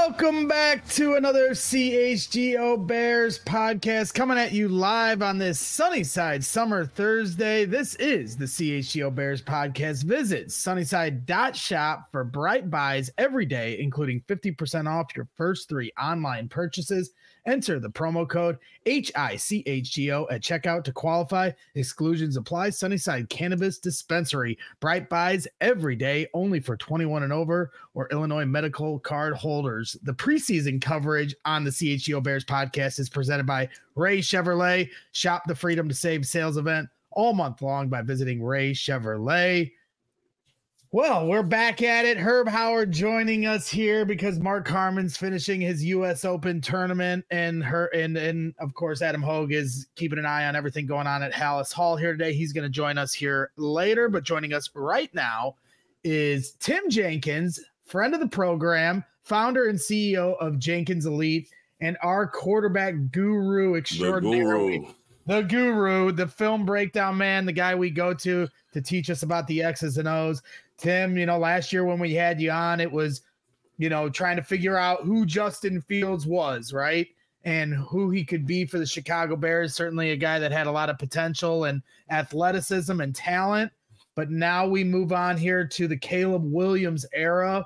Welcome back to another CHGO Bears podcast coming at you live on this Sunnyside Summer Thursday. This is the CHGO Bears podcast. Visit sunnyside.shop for bright buys every day, including 50% off your first 3 online purchases. Enter the promo code HICHGO at checkout to qualify. Exclusions apply. Sunnyside Cannabis Dispensary. Bright buys every day, only for 21 and over or Illinois medical card holders. The preseason coverage on the CHGO Bears podcast is presented by Ray Chevrolet. Shop the Freedom to Save sales event all month long by visiting Ray Chevrolet. Well, we're back at it. Herb Howard joining us here because Mark Carman's finishing his U.S. Open tournament, and of course Adam Hogue is keeping an eye on everything going on at Hallis Hall here today. He's going to join us here later, but joining us right now is Tim Jenkins, friend of the program, founder and CEO of Jenkins Elite, and our quarterback guru extraordinary. The guru, the film breakdown man, the guy we go to teach us about the X's and O's. Tim, last year when we had you on, it was, trying to figure out who Justin Fields was, right? And who he could be for the Chicago Bears. Certainly a guy that had a lot of potential and athleticism and talent. But now we move on here to the Caleb Williams era.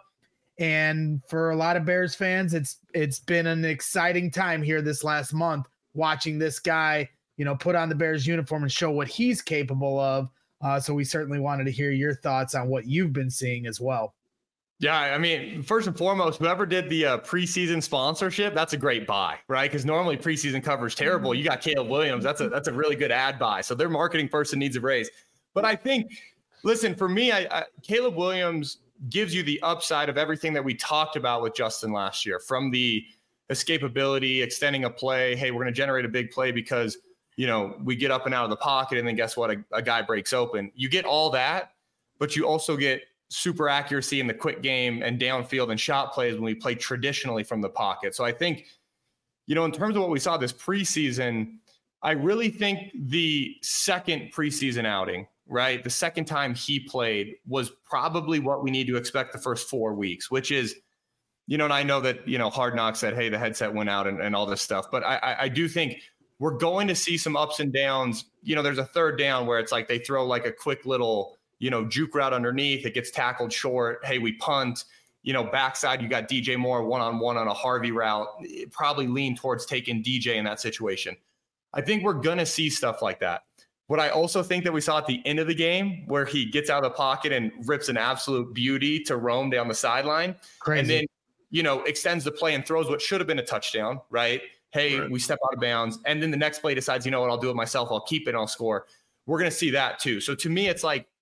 And for a lot of Bears fans, it's been an exciting time here this last month, watching this guy, put on the Bears uniform and show what he's capable of. So we certainly wanted to hear your thoughts on what you've been seeing as well. Yeah, I mean, first and foremost, whoever did the preseason sponsorship, that's a great buy, right? Because normally preseason coverage terrible. You got Caleb Williams. That's a really good ad buy. So their marketing person needs a raise. But I think, listen, for me, Caleb Williams gives you the upside of everything that we talked about with Justin last year, from the escapability, extending a play. Hey, we're going to generate a big play because we get up and out of the pocket, and then guess what? A guy breaks open. You get all that, but you also get super accuracy in the quick game and downfield and shot plays when we play traditionally from the pocket. So I think, in terms of what we saw this preseason, I really think the second preseason outing, right? The second time he played was probably what we need to expect the first 4 weeks, which is, and I know that, Hard Knocks said, hey, the headset went out and all this stuff, but I do think we're going to see some ups and downs. There's a third down where it's like they throw like a quick little, juke route underneath. It gets tackled short. Hey, we punt. Backside, you got DJ Moore one-on-one on a Harvey route. It probably lean towards taking DJ in that situation. I think we're going to see stuff like that. What I also think that we saw at the end of the game, where he gets out of the pocket and rips an absolute beauty to roam down the sideline. Crazy. And then, extends the play and throws what should have been a touchdown, right? Hey, right. We step out of bounds. And then the next play decides, what, I'll do it myself. I'll keep it and I'll score. We're going to see that too. So to me, it's like,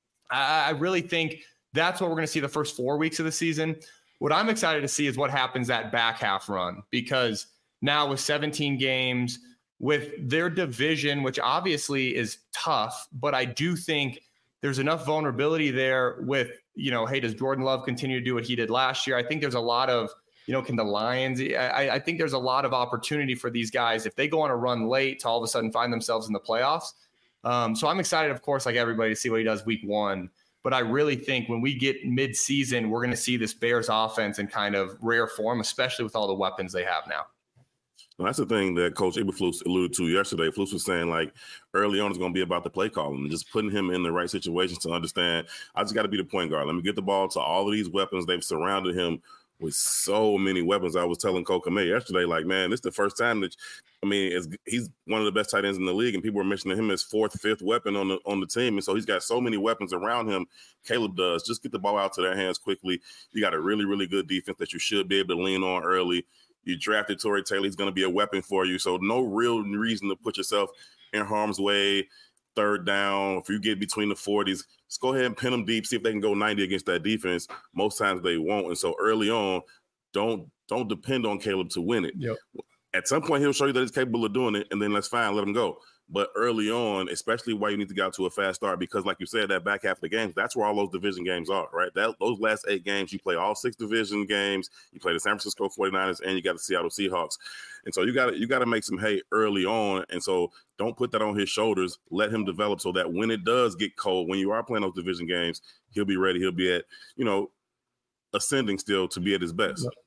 I really think that's what we're going to see the first 4 weeks of the season. What I'm excited to see is what happens that back half run, because now with 17 games, with their division, which obviously is tough, but I do think there's enough vulnerability there with, hey, does Jordan Love continue to do what he did last year? I think there's a lot of, can the Lions, I think there's a lot of opportunity for these guys if they go on a run late to all of a sudden find themselves in the playoffs. So I'm excited, of course, like everybody, to see what he does week 1. But I really think when we get mid-season, we're going to see this Bears offense in kind of rare form, especially with all the weapons they have now. Well, that's the thing that Coach Eberflus alluded to yesterday. Flus was saying, like, early on it's going to be about the play calling and just putting him in the right situations to understand, I just got to be the point guard. Let me get the ball to all of these weapons. They've surrounded him with so many weapons. I was telling Cole Kmet yesterday, like, man, this is the first time that, he's one of the best tight ends in the league, and people were mentioning him as 4th, 5th weapon on the team. And so he's got so many weapons around him. Caleb does. Just get the ball out to their hands quickly. You got a really, really good defense that you should be able to lean on early. You drafted Torrey Taylor. He's going to be a weapon for you. So no real reason to put yourself in harm's way. Third down, if you get between the 40s, just go ahead and pin them deep, see if they can go 90 against that defense. Most times they won't. And so early on, don't depend on Caleb to win it. Yep. At some point, he'll show you that he's capable of doing it, and then that's fine, let him go. But early on, especially why you need to get out to a fast start, because like you said, that back half of the games, that's where all those division games are, right? Those last 8 games, you play all 6 division games, you play the San Francisco 49ers, and you got the Seattle Seahawks. And so you got to make some hay early on. And so don't put that on his shoulders. Let him develop so that when it does get cold, when you are playing those division games, he'll be ready. He'll be at, ascending still to be at his best.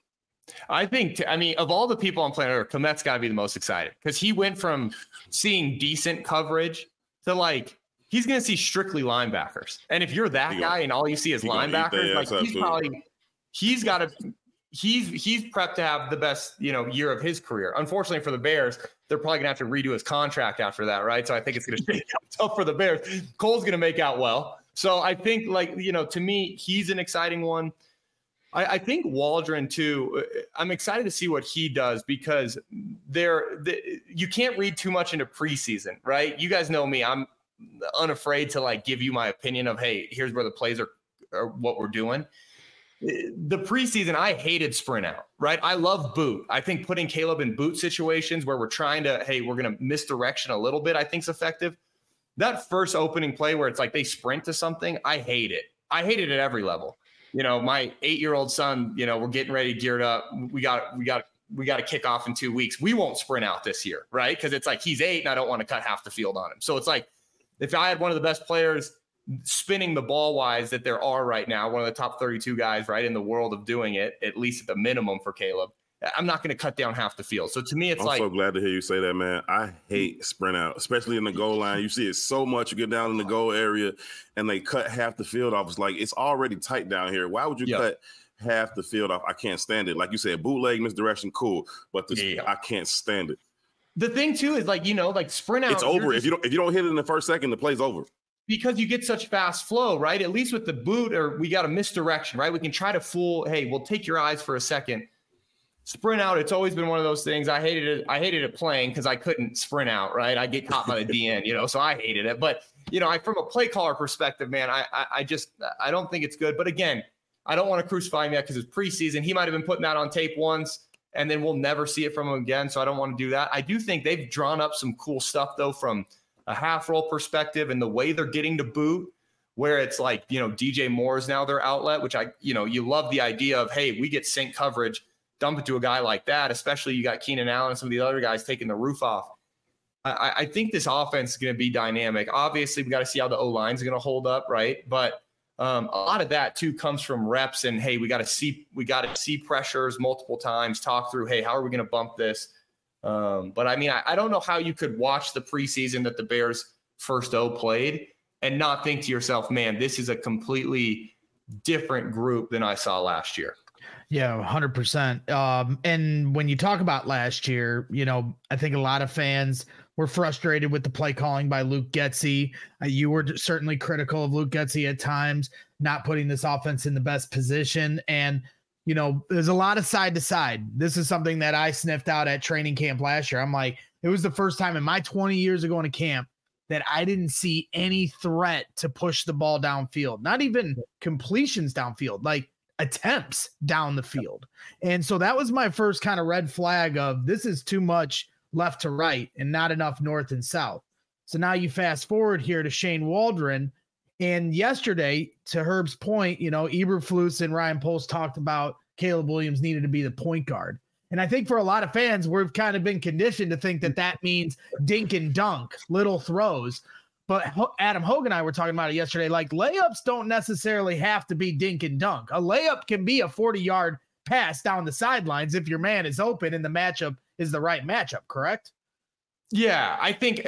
I think, of all the people on planet Earth, Komet's got to be the most excited because he went from seeing decent coverage to like, he's going to see strictly linebackers. And if you're that guy and all you see is linebackers, like he's prepped to have the best, year of his career. Unfortunately for the Bears, they're probably gonna have to redo his contract after that. Right. So I think it's going to shake out tough for the Bears. Cole's going to make out well. So I think to me, he's an exciting one. I think Waldron too. I'm excited to see what he does because you can't read too much into preseason, right? You guys know me. I'm unafraid to like give you my opinion of, hey, here's where the plays are what we're doing. The preseason, I hated sprint out, right? I love boot. I think putting Caleb in boot situations where we're trying to, hey, we're going to misdirection a little bit, I think is effective. That first opening play where it's like they sprint to something, I hate it. I hate it at every level. My 8-year-old son, we're getting ready, geared up. We got to kick off in 2 weeks. We won't sprint out this year, right? Because it's like he's 8 and I don't want to cut half the field on him. So it's like if I had one of the best players spinning the ball wise that there are right now, one of the top 32 guys right in the world of doing it, at least at the minimum for Caleb, I'm not going to cut down half the field. So to me, I'm so glad to hear you say that, man. I hate sprint out, especially in the goal line. You see it so much. You get down in the goal area and they cut half the field off. It's like, it's already tight down here. Why would you cut half the field off? I can't stand it. Like you said, bootleg, misdirection, cool. But I can't stand it. The thing too is like sprint out. It's over. If you don't hit it in the first second, the play's over. Because you get such fast flow, right? At least with the boot, or we got a misdirection, right? We can try to fool. Hey, we'll take your eyes for a second. Sprint out, it's always been one of those things. I hated it playing because I couldn't sprint out, right? I get caught by the DN, so I hated it. But, from a play caller perspective, man, I don't think it's good. But again, I don't want to crucify him yet because it's preseason. He might have been putting that on tape once, and then we'll never see it from him again. So I don't want to do that. I do think they've drawn up some cool stuff, though, from a half roll perspective and the way they're getting to boot, where it's like, DJ Moore is now their outlet, which you love the idea of, hey, we get sync coverage. Dump it to a guy like that, especially you got Keenan Allen and some of the other guys taking the roof off. I think this offense is going to be dynamic. Obviously, we got to see how the O-line is going to hold up, right? But a lot of that too comes from reps and, hey, we got to see pressures multiple times, talk through, hey, how are we going to bump this? But I don't know how you could watch the preseason that the Bears first O played and not think to yourself, man, this is a completely different group than I saw last year. Yeah, 100%. And when you talk about last year, I think a lot of fans were frustrated with the play calling by Luke Getsy. You were certainly critical of Luke Getsy at times, not putting this offense in the best position. And, there's a lot of side to side. This is something that I sniffed out at training camp last year. I'm like, it was the first time in my 20 years of going to camp that I didn't see any threat to push the ball downfield, not even completions downfield, like attempts down the field. And so that was my first kind of red flag of this is too much left to right and not enough north and south. So now you fast forward here to Shane Waldron. And yesterday, to Herb's point, Eberflus and Ryan Poles talked about Caleb Williams needed to be the point guard. And I think for a lot of fans, we've kind of been conditioned to think that means dink and dunk, little throws. But Adam Hogue and I were talking about it yesterday. Like, layups don't necessarily have to be dink and dunk. A layup can be a 40-yard pass down the sidelines if your man is open and the matchup is the right matchup, correct? Yeah, I think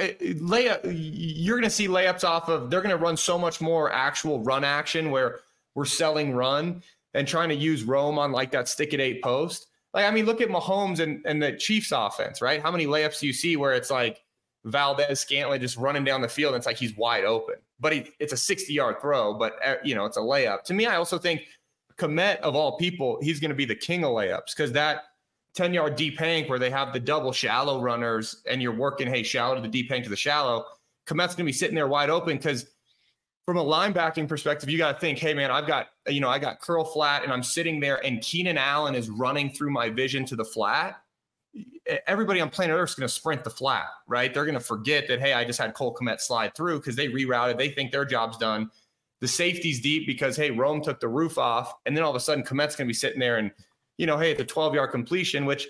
you're going to see layups off of – they're going to run so much more actual run action where we're selling run and trying to use Rome on like that stick-at-8 post. Like, look at Mahomes and the Chiefs offense, right? How many layups do you see where it's like Valdez Scantling just running down the field and it's like he's wide open? But it's a 60-yard throw, but, it's a layup. To me, I also think Kmet, of all people, he's going to be the king of layups because that 10-yard deep hank where they have the double shallow runners and you're working, hey, shallow to the deep hank to the shallow, Kmet's going to be sitting there wide open because from a linebacking perspective, you got to think, hey, man, I got curl flat and I'm sitting there and Keenan Allen is running through my vision to the flat. Everybody on planet Earth is going to sprint the flat, right? They're going to forget that, hey, I just had Cole Kmet slide through because they rerouted. They think their job's done. The safety's deep because, hey, Rome took the roof off. And then all of a sudden, Kmet's going to be sitting there and, hey, the 12-yard completion, which,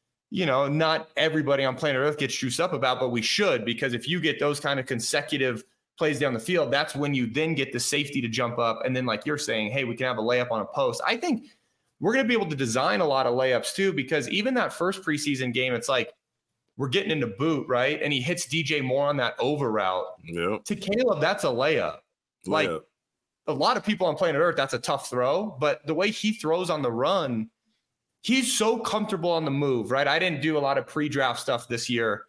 not everybody on planet Earth gets juiced up about, but we should, because if you get those kind of consecutive plays down the field, that's when you then get the safety to jump up. And then, like you're saying, hey, we can have a layup on a post. I think we're going to be able to design a lot of layups too, because even that first preseason game, it's like we're getting into boot, right? And he hits DJ Moore on that over route. Yep. To Caleb, that's a layup. Like a lot of people on planet Earth, that's a tough throw. But the way he throws on the run, he's so comfortable on the move, right? I didn't do a lot of pre-draft stuff this year.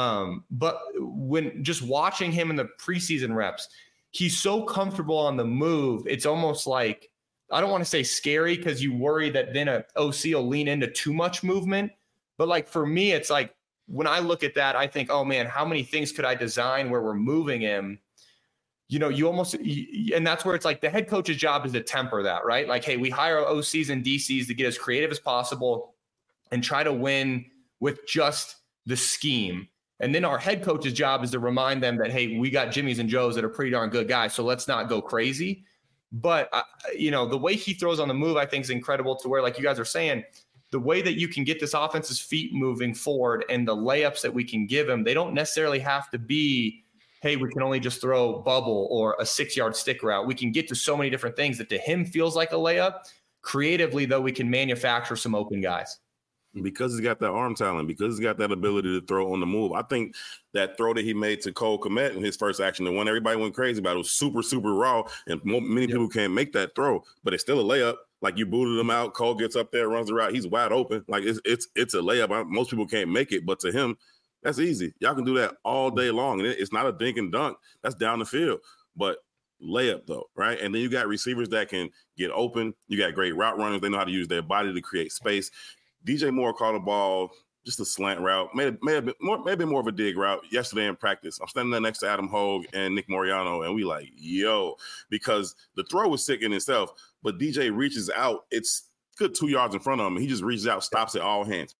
But when just watching him in the preseason reps, he's so comfortable on the move. It's almost like, I don't want to say scary because you worry that then a OC will lean into too much movement. But like for me, it's like when I look at that, I think, oh man, how many things could I design where we're moving him? You know, and that's where it's like the head coach's job is to temper that, right? Like, hey, we hire OCs and DCs to get as creative as possible and try to win with just the scheme. And then our head coach's job is to remind them that, hey, we got Jimmys and Joes that are pretty darn good guys, so let's not go crazy. But, you know, the way he throws on the move, I think is incredible to where, like you guys are saying, the way that you can get this offense's feet moving forward and the layups that we can give him, they don't necessarily have to be, hey, we can only just throw bubble or a 6-yard stick route. We can get to so many different things that to him feels like a layup. Creatively, though, we can manufacture some open guys. Because he's got that arm talent, because he's got that ability to throw on the move. I think that throw that he made to Cole Kmet in his first action, the one everybody went crazy about, it was super, super raw, and many people can't make that throw, but it's still a layup. Like, you booted him out, Cole gets up there, runs the route, he's wide open. Like, it's a layup. Most people can't make it, but to him, that's easy. Y'all can do that all day long, and it's not a dink and dunk. That's down the field, but layup though, right? And then you got receivers that can get open. You got great route runners. They know how to use their body to create space. DJ Moore caught a ball, just a slant route, may have been more of a dig route yesterday in practice. I'm standing there next to Adam Hogue and Nick Moriano, and we like, yo, because the throw was sick in itself, but DJ reaches out. It's good 2 yards in front of him. He just reaches out, stops it all hands.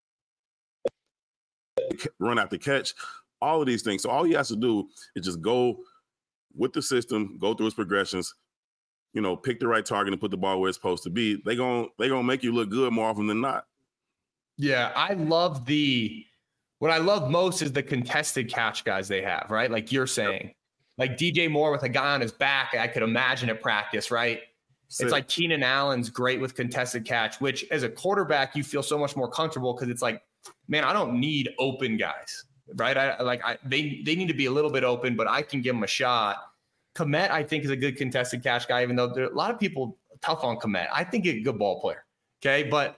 Run out the catch, all of these things. So all he has to do is just go with the system, go through his progressions, you know, pick the right target and put the ball where it's supposed to be. They gonna make you look good more often than not. Yeah, what I love most is the contested catch guys they have, right? Like you're saying, like DJ Moore with a guy on his back, I could imagine at practice, right? It's like Keenan Allen's great with contested catch, which as a quarterback, you feel so much more comfortable because it's like, man, I don't need open guys, right? They need to be a little bit open, but I can give them a shot. Kmet, I think, is a good contested catch guy, even though there are a lot of people tough on Kmet. I think he's a good ball player, okay? But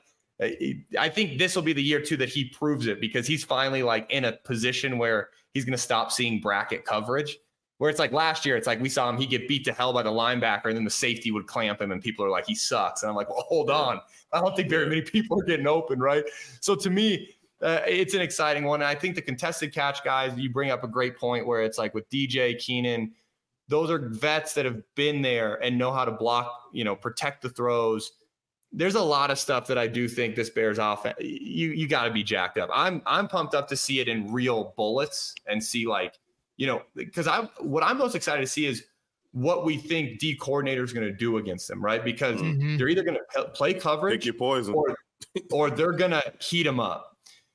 I think this will be the year, too, that he proves it because he's finally, like, in a position where he's going to stop seeing bracket coverage, where it's like last year, it's like we saw him, he'd get beat to hell by the linebacker, and then the safety would clamp him, and people are like, he sucks. And I'm like, well, hold on. I don't think very many people are getting open, right? So to me, it's an exciting one. And I think the contested catch guys, you bring up a great point where it's like with DJ, Keenan, those are vets that have been there and know how to block, you know, protect the throws. There's a lot of stuff that I do think this Bears offense, you got to be jacked up. I'm pumped up to see it in real bullets and see, like, you know, because what I'm most excited to see is what we think D coordinator is going to do against them, right? Because they're either going to play coverage, pick your poison, or they're going to heat them up.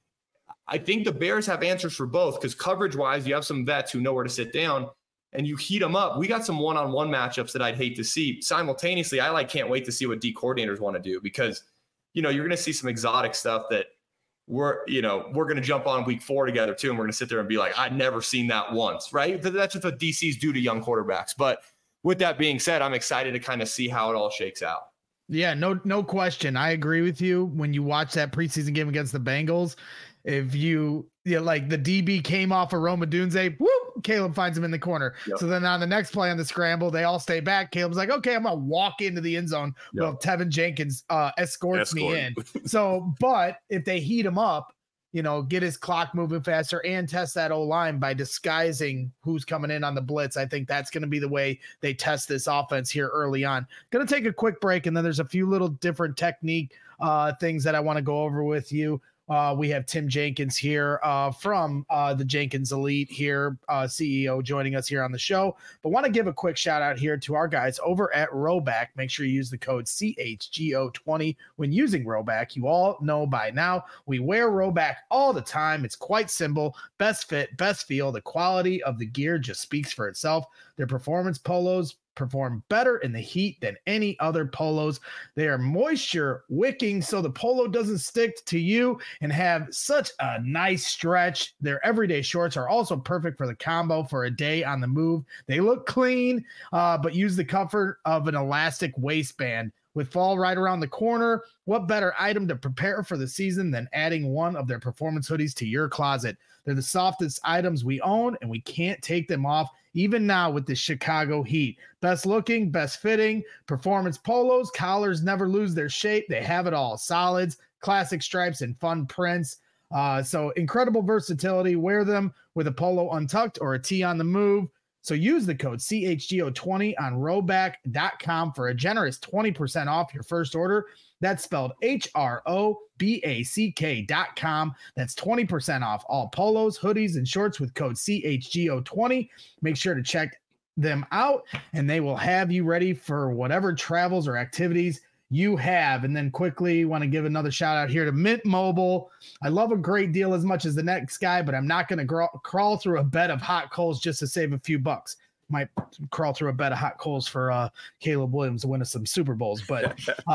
I think the Bears have answers for both because coverage-wise, you have some vets who know where to sit down, and you heat them up. We got some one-on-one matchups that I'd hate to see. Simultaneously, I can't wait to see what D coordinators want to do because, you know, you're going to see some exotic stuff that we're going to jump on week 4 together too, and we're going to sit there and be like, I'd never seen that once, right? That's just what DCs do to young quarterbacks. But with that being said, I'm excited to kind of see how it all shakes out. Yeah, no question. I agree with you. When you watch that preseason game against the Bengals, if like the DB came off of Rome Odunze, whoop, Caleb finds him in the corner. Yep. So then on the next play on the scramble, they all stay back. Caleb's like, okay, I'm going to walk into the end zone. Yep. Well, Tevin Jenkins escorts me in. So, but if they heat him up, you know, get his clock moving faster and test that O-line by disguising who's coming in on the blitz, I think that's going to be the way they test this offense here early on. Going to take a quick break, and then there's a few little different technique things that I want to go over with you. We have Tim Jenkins here from the Jenkins Elite here, CEO, joining us here on the show. But want to give a quick shout out here to our guys over at Rhoback. Make sure you use the code CHGO20 when using Rhoback. You all know by now we wear Rhoback all the time. It's quite simple. Best fit, best feel. The quality of the gear just speaks for itself. Their performance polos, perform better in the heat than any other polos. They are moisture wicking so the polo doesn't stick to you and have such a nice stretch. Their everyday shorts are also perfect for the combo for a day on the move. They look clean, but use the comfort of an elastic waistband. With fall right around the corner, what better item to prepare for the season than adding one of their performance hoodies to your closet? They're the softest items we own, and we can't take them off even now with the Chicago heat. Best looking, best fitting, performance polos, collars never lose their shape. They have it all. Solids, classic stripes, and fun prints. So incredible versatility. Wear them with a polo untucked or a tee on the move. So use the code CHGO20 on Rhoback.com for a generous 20% off your first order. That's spelled HROBACK.com. That's 20% off all polos, hoodies, and shorts with code CHGO20. Make sure to check them out, and they will have you ready for whatever travels or activities you have. And then quickly want to give another shout out here to Mint Mobile. I love a great deal as much as the next guy, but I'm not going to crawl through a bed of hot coals just to save a few bucks. Might crawl through a bed of hot coals for Caleb Williams to win us some Super Bowls, but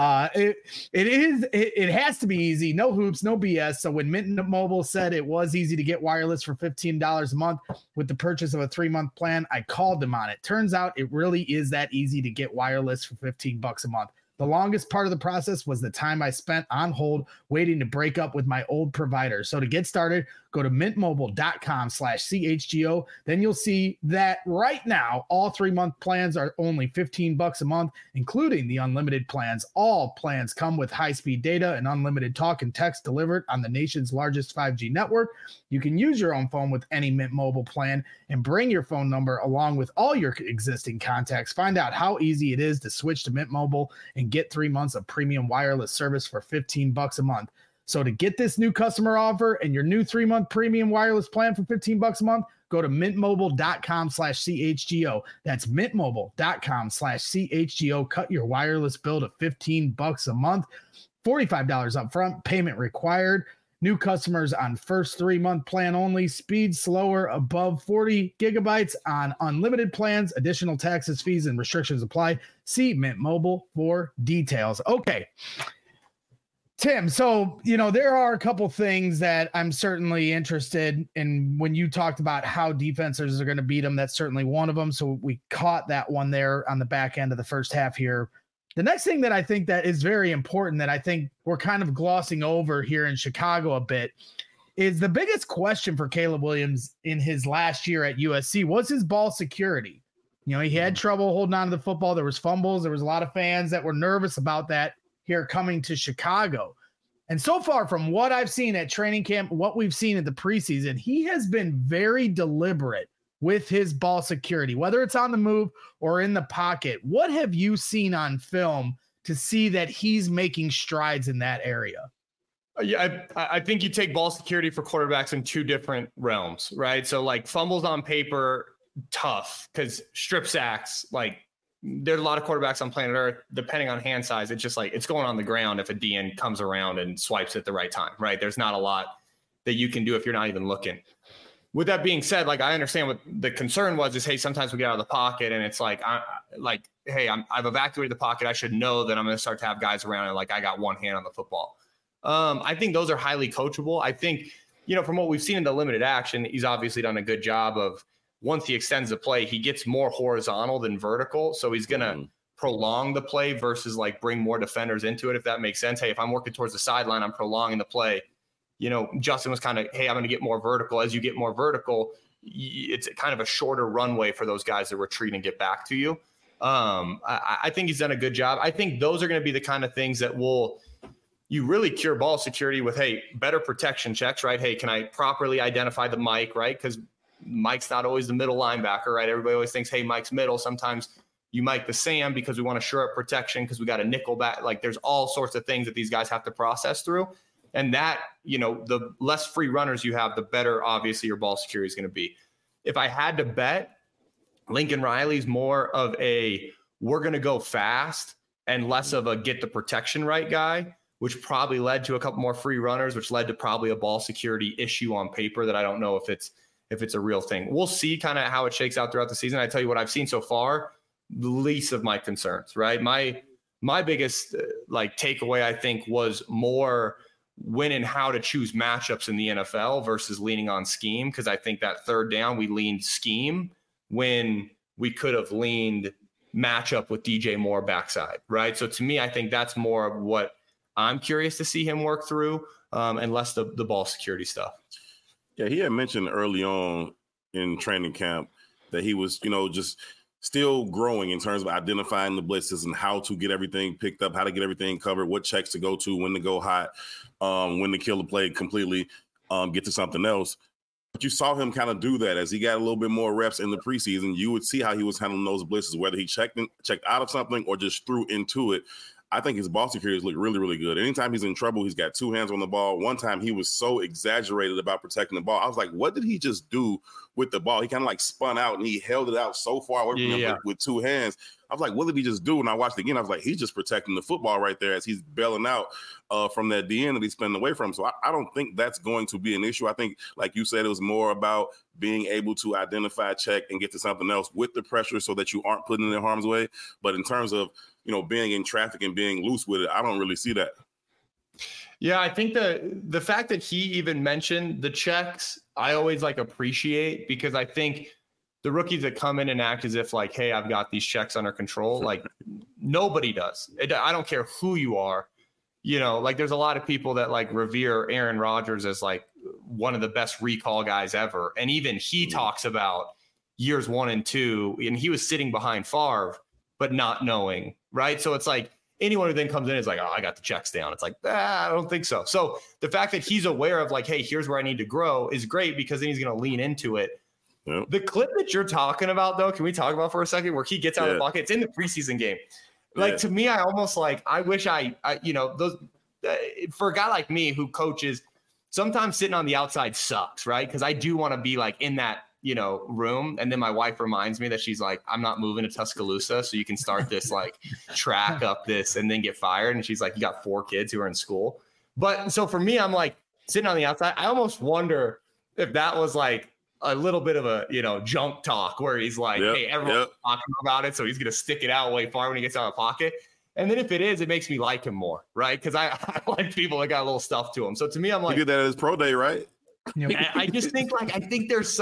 it has to be easy. No hoops, no BS. So when Mint Mobile said it was easy to get wireless for $15 a month with the purchase of a 3-month plan, I called them on it. Turns out it really is that easy to get wireless for $15 a month. The longest part of the process was the time I spent on hold waiting to break up with my old provider. So to get started, go to mintmobile.com/CHGO. Then you'll see that right now, all 3-month plans are only $15 a month, including the unlimited plans. All plans come with high-speed data and unlimited talk and text delivered on the nation's largest 5G network. You can use your own phone with any Mint Mobile plan and bring your phone number along with all your existing contacts. Find out how easy it is to switch to Mint Mobile and get 3 months of premium wireless service for $15 a month. So to get this new customer offer and your new 3-month premium wireless plan for $15 a month, go to mintmobile.com/CHGO. That's mintmobile.com/CHGO. Cut your wireless bill to $15 a month, $45 up front, payment required. New customers on first 3-month plan only. Speed slower above 40 gigabytes on unlimited plans. Additional taxes, fees, and restrictions apply. See Mint Mobile for details. Okay, Tim, so, there are a couple things that I'm certainly interested in. When you talked about how defenses are going to beat them, that's certainly one of them. So we caught that one there on the back end of the first half here. The next thing that I think that is very important that I think we're kind of glossing over here in Chicago a bit is the biggest question for Caleb Williams in his last year at USC was his ball security. He had trouble holding on to the football. There was fumbles. There was a lot of fans that were nervous about that here coming to Chicago. And so far from what I've seen at training camp, what we've seen in the preseason, he has been very deliberate with his ball security, whether it's on the move or in the pocket. What have you seen on film to see that he's making strides in that area? Yeah, I think you take ball security for quarterbacks in two different realms, right? So like fumbles on paper, tough, because strip sacks, like there's a lot of quarterbacks on planet Earth, depending on hand size, it's just like it's going on the ground if a DN comes around and swipes at the right time, right? There's not a lot that you can do if you're not even looking. With that being said, like I understand what the concern was is, hey, sometimes we get out of the pocket and it's like, I've evacuated the pocket. I should know that I'm going to start to have guys around and like I got one hand on the football. I think those are highly coachable. I think, from what we've seen in the limited action, he's obviously done a good job of once he extends the play, he gets more horizontal than vertical. So he's going to prolong the play versus like bring more defenders into it, if that makes sense. Hey, if I'm working towards the sideline, I'm prolonging the play. Justin was kind of, hey, I'm going to get more vertical. As you get more vertical, it's kind of a shorter runway for those guys to retreat and get back to you. I think he's done a good job. I think those are going to be the kind of things that you really cure ball security with, hey, better protection checks, right? Hey, can I properly identify the Mike, right? Because Mike's not always the middle linebacker, right? Everybody always thinks, hey, Mike's middle. Sometimes you Mike the Sam because we want to shore up protection because we got a nickel back. Like there's all sorts of things that these guys have to process through. And that, the less free runners you have, the better, obviously, your ball security is going to be. If I had to bet, Lincoln Riley's more of a we're going to go fast and less of a get the protection right guy, which probably led to a couple more free runners, which led to probably a ball security issue on paper that I don't know if it's a real thing. We'll see kind of how it shakes out throughout the season. I tell you what I've seen so far, the least of my concerns, right? My biggest takeaway, I think, was more when and how to choose matchups in the NFL versus leaning on scheme. Because I think that third down, we leaned scheme when we could have leaned matchup with DJ Moore backside, right? So to me, I think that's more of what I'm curious to see him work through, and less the ball security stuff. Yeah, he had mentioned early on in training camp that he was, just still growing in terms of identifying the blitzes and how to get everything picked up, how to get everything covered, what checks to go to, when to go hot, when to kill the play completely, get to something else. But you saw him kind of do that as he got a little bit more reps in the preseason. You would see how he was handling those blitzes, whether he checked out of something or just threw into it. I think his ball securities look really, really good. Anytime he's in trouble, he's got two hands on the ball. One time he was so exaggerated about protecting the ball. I was like, what did he just do with the ball? He kind of spun out and he held it out so far away from him with two hands. I was like, what did he just do? And I watched it again. I was like, he's just protecting the football right there as he's bailing out from that DN that he's spinning away from. So I don't think that's going to be an issue. I think, like you said, it was more about being able to identify, check, and get to something else with the pressure so that you aren't putting it in harm's way. But in terms of, being in traffic and being loose with it, I don't really see that. Yeah, I think the fact that he even mentioned the checks, I always appreciate, because I think the rookies that come in and act as if hey, I've got these checks under control, nobody does. I don't care who you are. There's a lot of people that revere Aaron Rodgers as one of the best recall guys ever. And even he talks about years 1 and 2, and he was sitting behind Favre, but not knowing, right? So it's anyone who then comes in is oh, I got the checks down. It's I don't think so. So the fact that he's aware of hey, here's where I need to grow is great, because then he's going to lean into it. Yep. The clip that you're talking about, though, can we talk about for a second, where he gets out of the pocket? It's in the preseason game. To me, I almost I wish those for a guy like me who coaches, sometimes sitting on the outside sucks, right? Because I do want to be in that room. And then my wife reminds me that she's I'm not moving to Tuscaloosa, so you can start this track up this and then get fired. And she's you got 4 kids who are in school. But so for me, I'm sitting on the outside. I almost wonder if that was a little bit of a, junk talk where he's hey, everyone's talking about it, so he's going to stick it out way far when he gets out of the pocket. And then if it is, it makes me like him more, right? Because I like people that got a little stuff to him. So to me, I'm he did that at his pro day, right? I just think I think there's,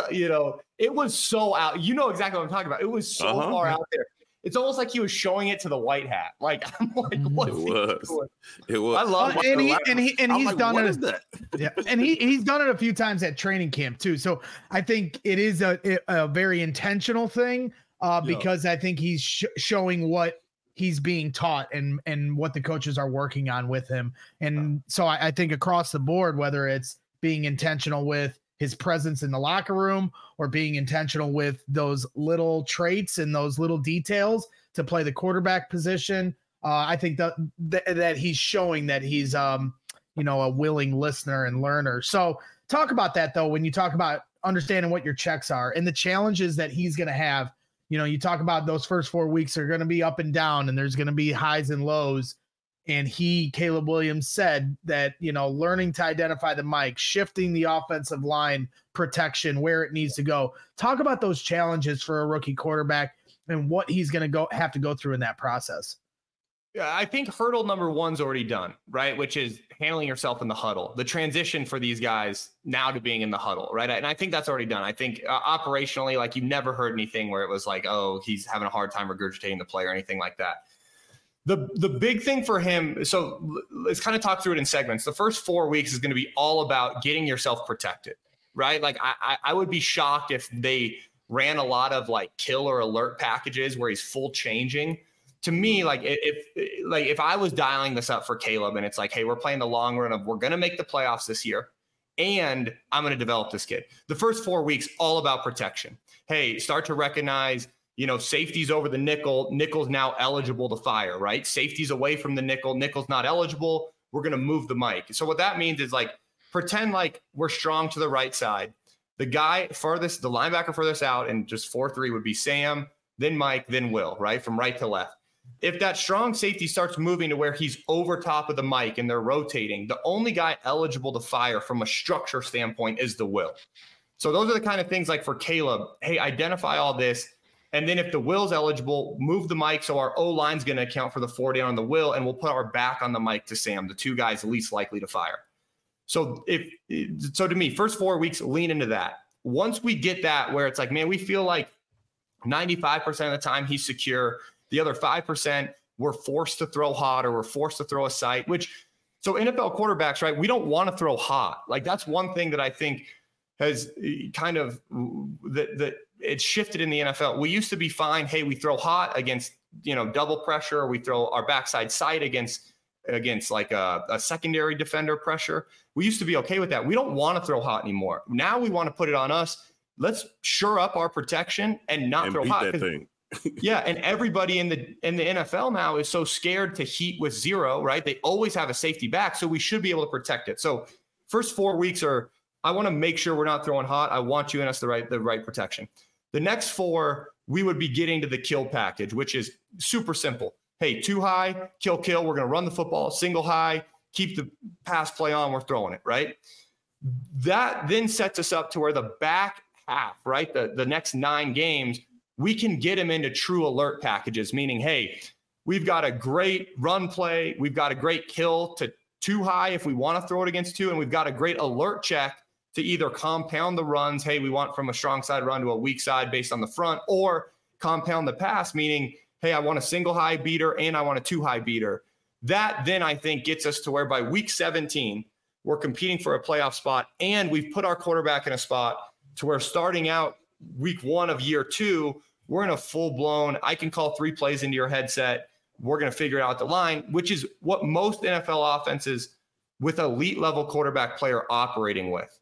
it was so out. You know exactly what I'm talking about. It was so far out there. It's almost like he was showing it to the white hat. I'm what is he doing? It was. I love it. And he's done it. Yeah, and he's done it a few times at training camp too. So I think it is a very intentional thing, because I think he's showing what he's being taught and what the coaches are working on with him. And so I think across the board, whether it's being intentional with his presence in the locker room or being intentional with those little traits and those little details to play the quarterback position, I think that he's showing that he's, a willing listener and learner. So talk about that, though, when you talk about understanding what your checks are and the challenges that he's going to have. You talk about those first 4 weeks are going to be up and down, and there's going to be highs and lows. And Caleb Williams said that, learning to identify the mic, shifting the offensive line protection where it needs to go. Talk about those challenges for a rookie quarterback and what he's going to have to go through in that process. Yeah, I think hurdle number 1's already done, right? Which is handling yourself in the huddle. The transition for these guys now to being in the huddle, right? And I think that's already done. I think operationally, you never heard anything where it was oh, he's having a hard time regurgitating the play or anything like that. The big thing for him, so let's kind of talk through it in segments. The first 4 weeks is going to be all about getting yourself protected, right? I would be shocked if they ran a lot of kill or alert packages where he's full changing. To me, if I was dialing this up for Caleb and it's hey, we're playing the long run of we're going to make the playoffs this year and I'm going to develop this kid. The first 4 weeks, all about protection. Hey, start to recognize safety's over the nickel. Nickel's now eligible to fire, right? Safety's away from the nickel. Nickel's not eligible. We're going to move the mic. So what that means is pretend we're strong to the right side. The guy furthest, the linebacker furthest out, and just 4-3 would be Sam, then Mike, then Will, right? From right to left. If that strong safety starts moving to where he's over top of the mic and they're rotating, the only guy eligible to fire from a structure standpoint is the Will. So those are the kind of things for Caleb, hey, identify all this. And then if the will's eligible, move the Mike. So our O-line's going to account for the 4 down on the will, and we'll put our back on the Mike to Sam, the 2 guys least likely to fire. So to me, first 4 weeks, lean into that. Once we get that where it's like, man, we feel like 95% of the time he's secure. The other 5%, we're forced to throw hot or we're forced to throw a sight, so NFL quarterbacks, right? We don't want to throw hot. Like that's one thing that I think has kind of that it's shifted in the NFL. We used to be fine. Hey, we throw hot against, double pressure, or we throw our backside sight against like a secondary defender pressure. We used to be okay with that. We don't want to throw hot anymore. Now we want to put it on us. Let's shore up our protection and not throw hot. That thing. Yeah, and everybody in the NFL now is so scared to heat with 0, right? They always have a safety back, so we should be able to protect it. So first 4 weeks I want to make sure we're not throwing hot. I want you and us the right protection. The next 4, we would be getting to the kill package, which is super simple. Hey, 2 high, kill. We're going to run the football, single high, keep the pass play on. We're throwing it, right? That then sets us up to where the back half, right? The next 9 games, we can get him into true alert packages, meaning, hey, we've got a great run play. We've got a great kill to 2 high if we want to throw it against 2. And we've got a great alert check to either compound the runs. Hey, we want from a strong side run to a weak side based on the front, or compound the pass, meaning, hey, I want a single high beater and I want a 2 high beater. That then I think gets us to where by week 17, we're competing for a playoff spot, and we've put our quarterback in a spot to where starting out week 1 of year 2, we're in a full-blown, I can call 3 plays into your headset. We're going to figure out the line, which is what most NFL offenses with elite level quarterback play are operating with.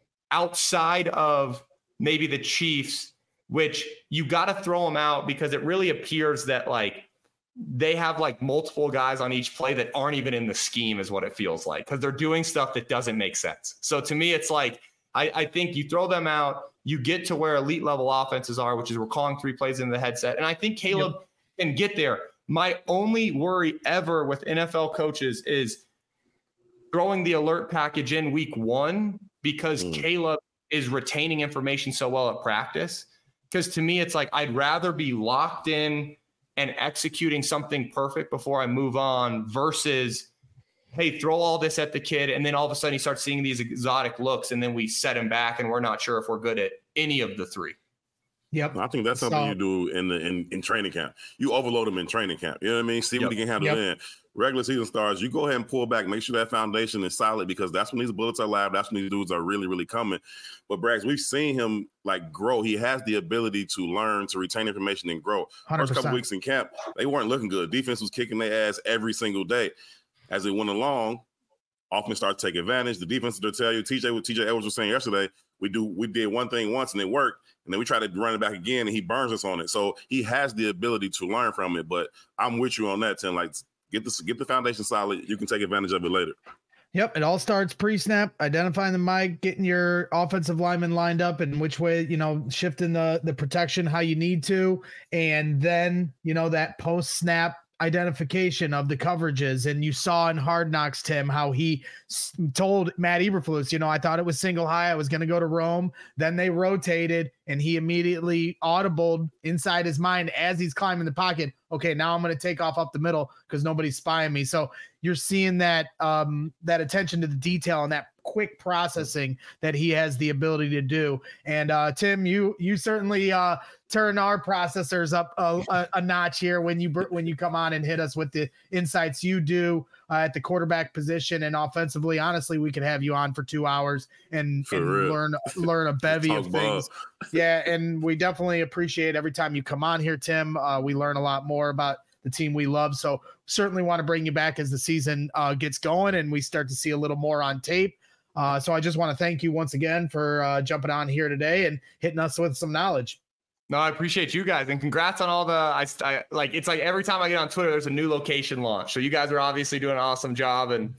Outside of maybe the Chiefs, which you got to throw them out because it really appears that like they have like multiple guys on each play that aren't even in the scheme is what it feels like, because they're doing stuff that doesn't make sense. So to me, it's like, I think you throw them out, you get to where elite level offenses are, which is we're calling 3 plays into the headset. And I think Caleb can get there. My only worry ever with NFL coaches is throwing the alert package in week 1 because Caleb is retaining information so well at practice. Because to me, it's like, I'd rather be locked in and executing something perfect before I move on versus, hey, throw all this at the kid, and then all of a sudden he starts seeing these exotic looks, and then we set him back, and we're not sure if we're good at any of the 3. Yep. I think that's something you do in training camp. You overload them in training camp. You know what I mean? See what he can handle then. Regular season stars, you go ahead and pull back, make sure that foundation is solid, because that's when these bullets are live. That's when these dudes are really, really coming. But Braggs, we've seen him like grow. He has the ability to learn, to retain information and grow. 100%. First couple weeks in camp, they weren't looking good. Defense was kicking their ass every single day. As it went along, offense started to take advantage. The defense will tell you, TJ Edwards was saying yesterday, we did one thing once and it worked, and then we try to run it back again and he burns us on it. So he has the ability to learn from it. But I'm with you on that, Tim. Like, get the foundation solid. You can take advantage of it later. Yep. It all starts pre-snap, identifying the mic, getting your offensive lineman lined up and which way, shifting the protection, how you need to. And then, that post-snap identification of the coverages. And you saw in Hard Knocks, Tim, how he told Matt Eberflus, I thought it was single high. I was going to go to Rome. Then they rotated and he immediately audibled inside his mind as he's climbing the pocket. Okay, now I'm going to take off up the middle because nobody's spying me. So you're seeing that that attention to the detail and that quick processing that he has the ability to do. And Tim, you certainly turn our processors up a notch here when you come on and hit us with the insights you do at the quarterback position and offensively. Honestly, we could have you on for 2 hours and learn a bevy of things. Yeah, and we definitely appreciate every time you come on here, Tim. We learn a lot more about the team we love. So certainly want to bring you back as the season gets going and we start to see a little more on tape. So I just want to thank you once again for jumping on here today and hitting us with some knowledge. No, I appreciate you guys, and congrats on all the. It's like every time I get on Twitter, there's a new location launch. So you guys are obviously doing an awesome job, and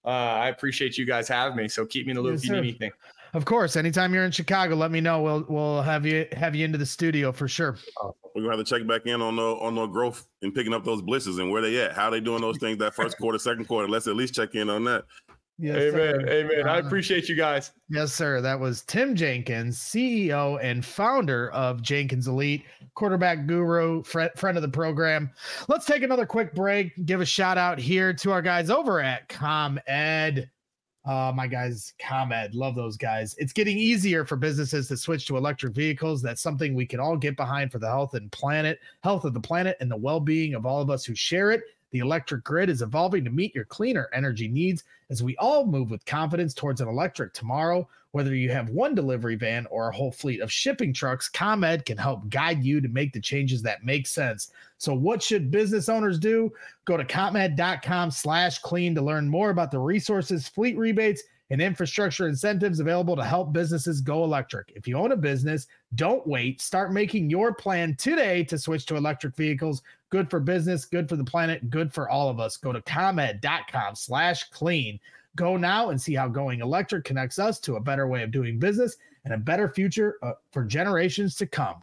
I appreciate you guys having me. So keep me in the loop if you need anything. Of course, anytime you're in Chicago, let me know. We'll have you into the studio for sure. We're gonna have to check back in on the growth and picking up those blitzes and where they at, how they doing those things that first quarter, second quarter. Let's at least check in on that. Yes, amen. sir. Amen. I appreciate you guys. Yes, sir. That was Tim Jenkins, CEO and founder of Jenkins Elite, quarterback guru, friend of the program. Let's take another quick break. Give a shout out here to our guys over at ComEd. My guys, ComEd, love those guys. It's getting easier for businesses to switch to electric vehicles. That's something we can all get behind for the health of the planet, and the well-being of all of us who share it. The electric grid is evolving to meet your cleaner energy needs as we all move with confidence towards an electric tomorrow. Whether you have one delivery van or a whole fleet of shipping trucks, ComEd can help guide you to make the changes that make sense. So what should business owners do? Go to ComEd.com/clean to learn more about the resources, fleet rebates, and infrastructure incentives available to help businesses go electric. If you own a business, don't wait. Start making your plan today to switch to electric vehicles. Good for business, good for the planet, good for all of us. Go to ComEd.com/clean. Go now and see how going electric connects us to a better way of doing business and a better future for generations to come.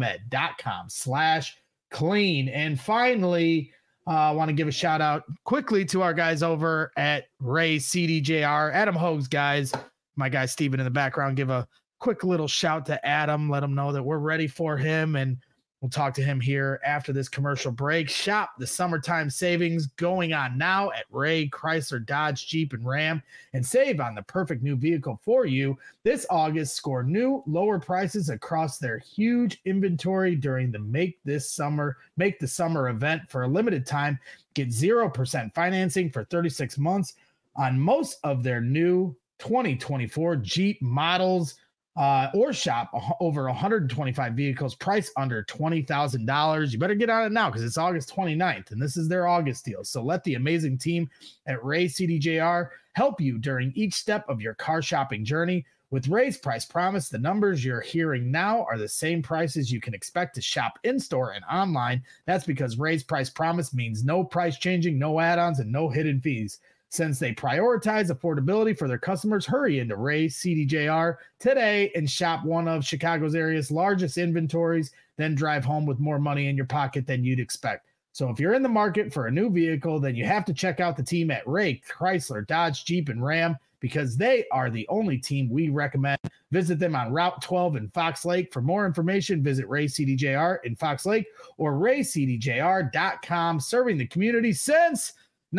ComEd.com/clean. And finally, I want to give a shout out quickly to our guys over at Ray CDJR, Adam Hogue's guys. My guy Steven in the background, give a quick little shout to Adam. Let him know that we're ready for him, and we'll talk to him here after this commercial break. Shop the summertime savings going on now at Ray Chrysler, Dodge, Jeep, and Ram, and save on the perfect new vehicle for you. This August, score new lower prices across their huge inventory during the Make the Summer event. For a limited time, get 0% financing for 36 months on most of their new 2024 Jeep models. Or shop over 125 vehicles priced under $20,000. You better get on it now because it's August 29th, and this is their August deal. So let the amazing team at Ray CDJR help you during each step of your car shopping journey. With Ray's Price Promise, the numbers you're hearing now are the same prices you can expect to shop in-store and online. That's because Ray's Price Promise means no price changing, no add-ons, and no hidden fees. Since they prioritize affordability for their customers, hurry into Ray CDJR today and shop one of Chicago's area's largest inventories, then drive home with more money in your pocket than you'd expect. So if you're in the market for a new vehicle, then you have to check out the team at Ray Chrysler, Dodge, Jeep, and Ram, because they are the only team we recommend. Visit them on Route 12 in Fox Lake. For more information, visit Ray CDJR in Fox Lake or raycdjr.com, serving the community since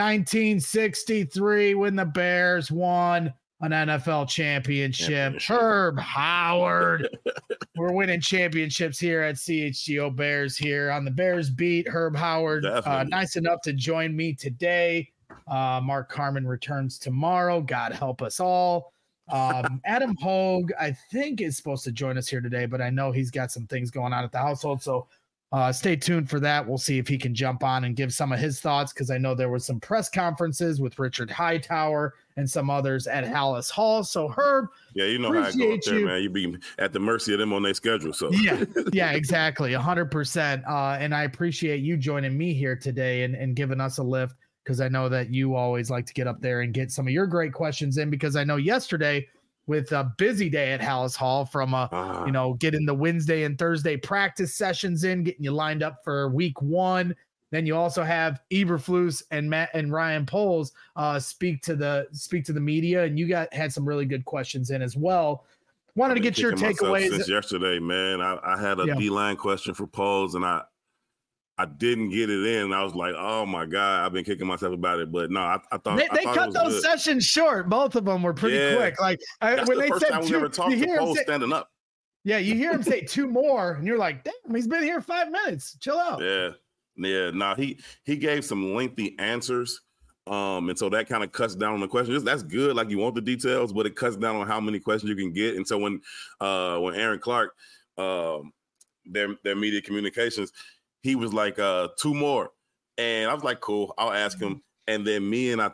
1963 when the Bears won an NFL championship. Herb Howard. We're winning championships here at CHGO Bears here on the Bears beat. Herb Howard, nice enough to join me today. Mark Carman returns tomorrow. God help us all. Adam Hogue, I think, is supposed to join us here today, but I know he's got some things going on at the household. So stay tuned for that. We'll see if he can jump on and give some of his thoughts, because I know there was some press conferences with Richard Hightower and some others at Hallis Hall. So Herb, yeah, you know how it goes there, man. You be at the mercy of them on their schedule. So yeah, exactly, 100%. And I appreciate you joining me here today and giving us a lift, because I know that you always like to get up there and get some of your great questions in, because I know yesterday, with a busy day at Hallis Hall, from getting the Wednesday and Thursday practice sessions in, getting you lined up for week one. Then you also have Eberflus and Matt and Ryan Poles speak to the media, and you had some really good questions in as well. Wanted to get your takeaways since yesterday, man. I had a D-line question for Poles, and I didn't get it in. I was like, oh my God, I've been kicking myself about it. But no, I thought they cut those sessions short. Both of them were pretty quick. Like when they said we ever talked to Poles standing up. Yeah, you hear him say two more, and you're like, damn, he's been here 5 minutes. Chill out. Yeah. No, he gave some lengthy answers. And so that kind of cuts down on the questions. That's good. Like, you want the details, but it cuts down on how many questions you can get. And so when Aaron Clark, their media communications, he was like, 2 more. And I was like, cool, I'll ask him. And then me and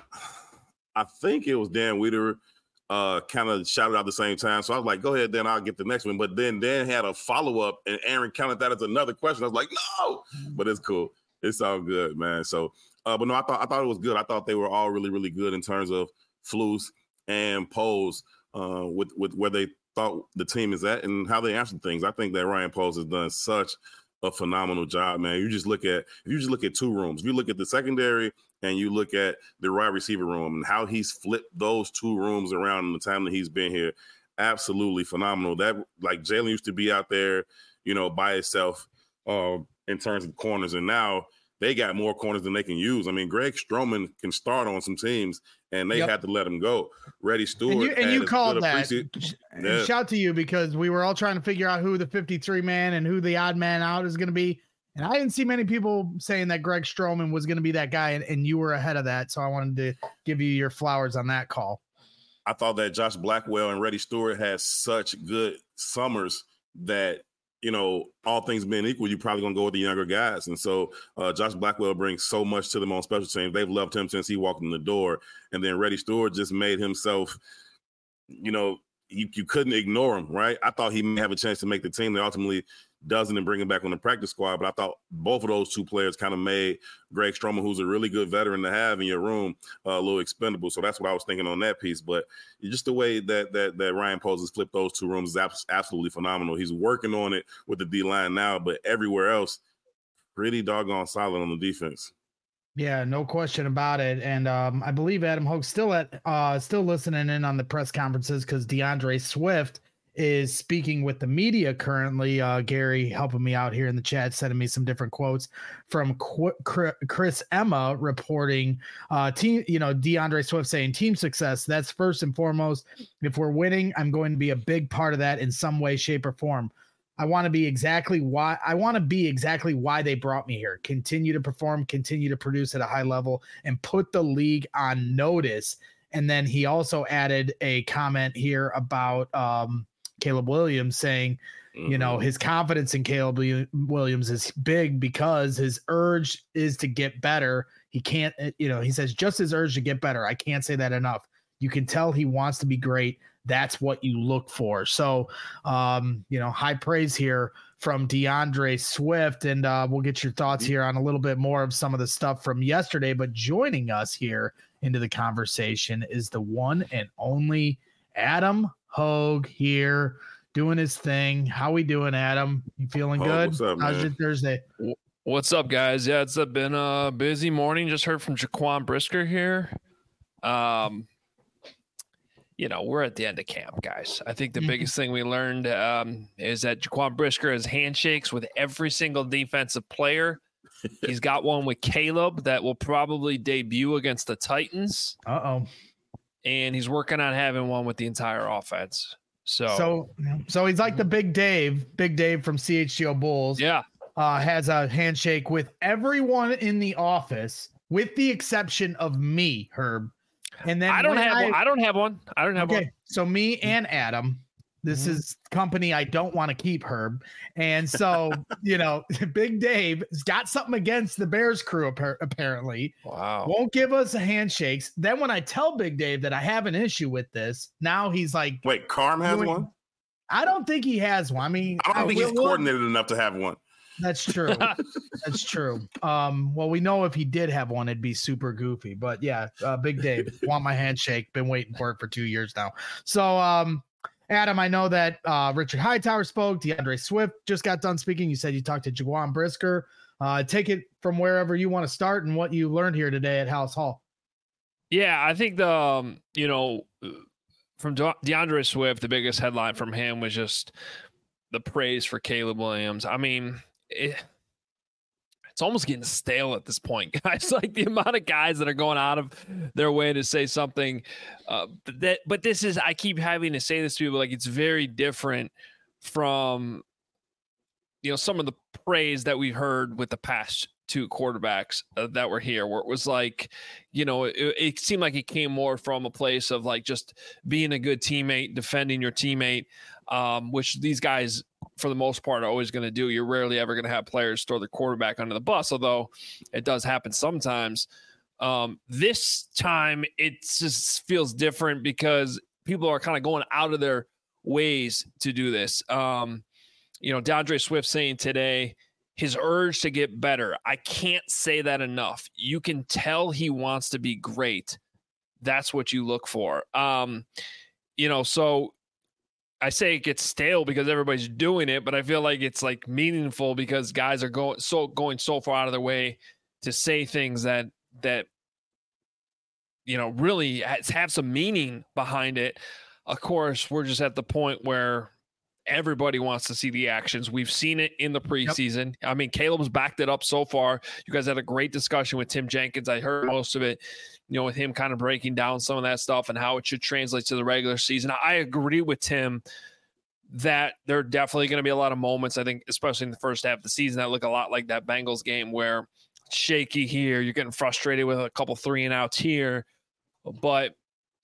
I think it was Dan Wiederer, kind of shouted out at the same time. So I was like, go ahead, then I'll get the next one. But then Dan had a follow-up, and Aaron counted that as another question. I was like, no, but it's cool. It's all good, man. So, but no, I thought it was good. I thought they were all really, really good in terms of Flus and Poles with where they thought the team is at and how they answered things. I think that Ryan Poles has done such a phenomenal job, man. If you just look at 2 rooms, if you look at the secondary and you look at the wide receiver room and how he's flipped those two rooms around in the time that he's been here, absolutely phenomenal. That, like, Jalen used to be out there, by himself in terms of corners, and now they got more corners than they can use. I mean, Greg Stroman can start on some teams, and they had to let him go. Reddy Stewart. And you called that. Yeah. Shout to you, because we were all trying to figure out who the 53 man and who the odd man out is going to be. And I didn't see many people saying that Greg Stroman was going to be that guy, and you were ahead of that. So I wanted to give you your flowers on that call. I thought that Josh Blackwell and Reddy Stewart had such good summers that, all things being equal, you're probably going to go with the younger guys. And so Josh Blackwell brings so much to them on special teams. They've loved him since he walked in the door. And then Reddy Stewart just made himself, you couldn't ignore him, right? I thought he may have a chance to make the team. They ultimately doesn't and bring him back on the practice squad. But I thought both of those two players kind of made Greg Stroman, who's a really good veteran to have in your room, a little expendable. So that's what I was thinking on that piece. But just the way that Ryan Poles has flipped those two rooms is absolutely phenomenal. He's working on it with the D-line now, but everywhere else, pretty doggone solid on the defense. Yeah, no question about it. And I believe Adam Hoke's still listening in on the press conferences, because DeAndre Swift is speaking with the media currently. Gary helping me out here in the chat, sending me some different quotes from Chris Emma reporting DeAndre Swift saying team success, that's first and foremost. If we're winning, I'm going to be a big part of that in some way, shape, or form. I want to be exactly why they brought me here. Continue to perform, continue to produce at a high level, and put the league on notice. And then he also added a comment here about Caleb Williams, saying, his confidence in Caleb Williams is big because his urge is to get better. He can't, he says just his urge to get better. I can't say that enough. You can tell he wants to be great. That's what you look for. So, high praise here from DeAndre Swift. And we'll get your thoughts here on a little bit more of some of the stuff from yesterday. But joining us here into the conversation is the one and only Adam Hogue here, doing his thing. How we doing, Adam? You feeling good? What's up, How's your Thursday? What's up, guys? Yeah, it's been a busy morning. Just heard from Jaquan Brisker here. We're at the end of camp, guys. I think the biggest thing we learned is that Jaquan Brisker has handshakes with every single defensive player. He's got one with Caleb that will probably debut against the Titans. Uh-oh. And he's working on having one with the entire offense. So he's like the Big Dave from CHGO Bulls. Yeah. Has a handshake with everyone in the office, with the exception of me, Herb. And then I don't have one. So me and Adam, this is company I don't want to keep, Herb. And so, Big Dave has got something against the Bears crew, apparently. Wow. Won't give us handshakes. Then when I tell Big Dave that I have an issue with this, now he's like, wait, Carm has one? I don't think he has one. I mean, I don't think he's coordinated enough to have one. That's true. That's true. Well, we know if he did have one, it'd be super goofy. But yeah, Big Dave, want my handshake. Been waiting for it for 2 years now. So, Adam, I know that Richard Hightower spoke. DeAndre Swift just got done speaking. You said you talked to Jaquan Brisker. Take it from wherever you want to start and what you learned here today at House Hall. Yeah, I think from DeAndre Swift, the biggest headline from him was just the praise for Caleb Williams. I mean, it's almost getting stale at this point, guys. Like the amount of guys that are going out of their way to say something but this is, I keep having to say this to people, like it's very different from, some of the praise that we've heard with the past two quarterbacks that were here, where it was like, it seemed like it came more from a place of like just being a good teammate, defending your teammate, which these guys, for the most part, are always going to do. You're rarely ever going to have players throw the quarterback under the bus, although it does happen sometimes. This time, it just feels different because people are kind of going out of their ways to do this. DeAndre Swift saying today, his urge to get better. I can't say that enough. You can tell he wants to be great. That's what you look for. So I say it gets stale because everybody's doing it, but I feel like it's like meaningful because guys are going so far out of their way to say things that really have some meaning behind it. Of course, we're just at the point where everybody wants to see the actions. We've seen it in the preseason. Yep. I mean, Caleb's backed it up so far. You guys had a great discussion with Tim Jenkins. I heard most of it, with him kind of breaking down some of that stuff and how it should translate to the regular season. I agree with Tim that there are definitely going to be a lot of moments, I think, especially in the first half of the season, that look a lot like that Bengals game where it's shaky here, you're getting frustrated with a couple 3-and-outs here. But,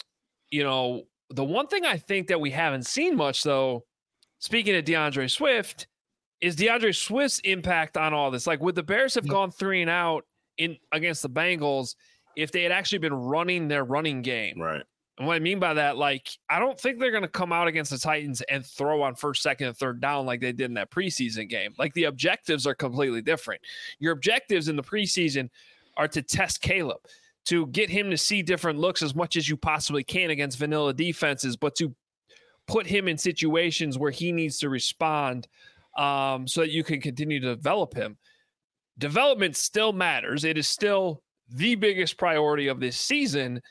the one thing I think that we haven't seen much, though, speaking of DeAndre Swift, is DeAndre Swift's impact on all this. Like, would the Bears have gone 3-and-out against the Bengals if they had actually been running their running game? Right. And what I mean by that, I don't think they're going to come out against the Titans and throw on first, second, and third down like they did in that preseason game. The objectives are completely different. Your objectives in the preseason are to test Caleb, to get him to see different looks as much as you possibly can against vanilla defenses, but to put him in situations where he needs to respond so that you can continue to develop him. Development still matters. It is still the biggest priority of this season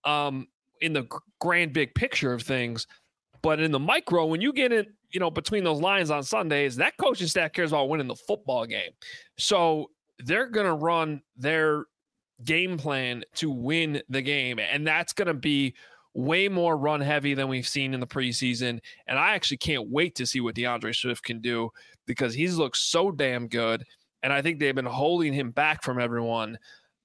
in the grand big picture of things. But in the micro, when you get in, between those lines on Sundays, that coaching staff cares about winning the football game. So they're going to run their game plan to win the game. And that's going to be way more run heavy than we've seen in the preseason. And I actually can't wait to see what DeAndre Swift can do because he's looked so damn good. And I think they've been holding him back from everyone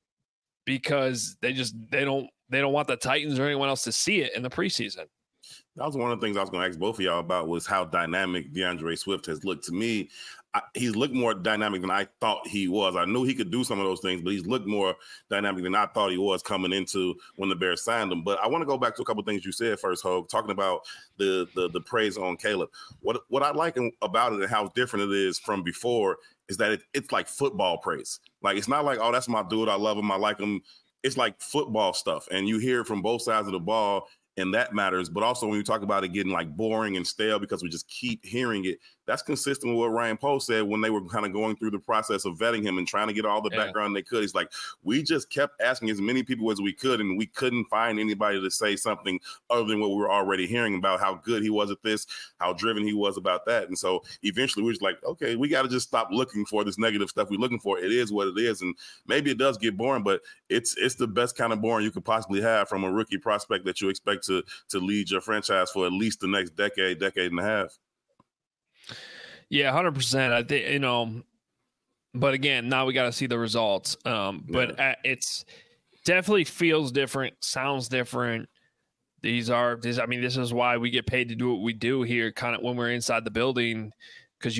because they don't want the Titans or anyone else to see it in the preseason. That was one of the things I was going to ask both of y'all about was how dynamic DeAndre Swift has looked to me. He's looked more dynamic than I thought he was. I knew he could do some of those things, but he's looked more dynamic than I thought he was coming into when the Bears signed him. But I want to go back to a couple of things you said first, Hogue, talking about the praise on Caleb. What I like about it and how different it is from before is that it's like football praise. It's not like, oh, that's my dude, I love him, I like him. It's like football stuff, and you hear it from both sides of the ball, and that matters. But also when you talk about it getting boring and stale because we just keep hearing it, that's consistent with what Ryan Poles said when they were kind of going through the process of vetting him and trying to get all the background they could. He's like, we just kept asking as many people as we could, and we couldn't find anybody to say something other than what we were already hearing about how good he was at this, how driven he was about that. And so eventually we were just like, okay, we got to just stop looking for this negative stuff we're looking for. It is what it is. And maybe it does get boring, but it's the best kind of boring you could possibly have from a rookie prospect that you expect to lead your franchise for at least the next decade and a half. Yeah, 100%. I think, but again, now we got to see the results. But it's definitely feels different, sounds different. This is why we get paid to do what we do here, kind of when we're inside the building, because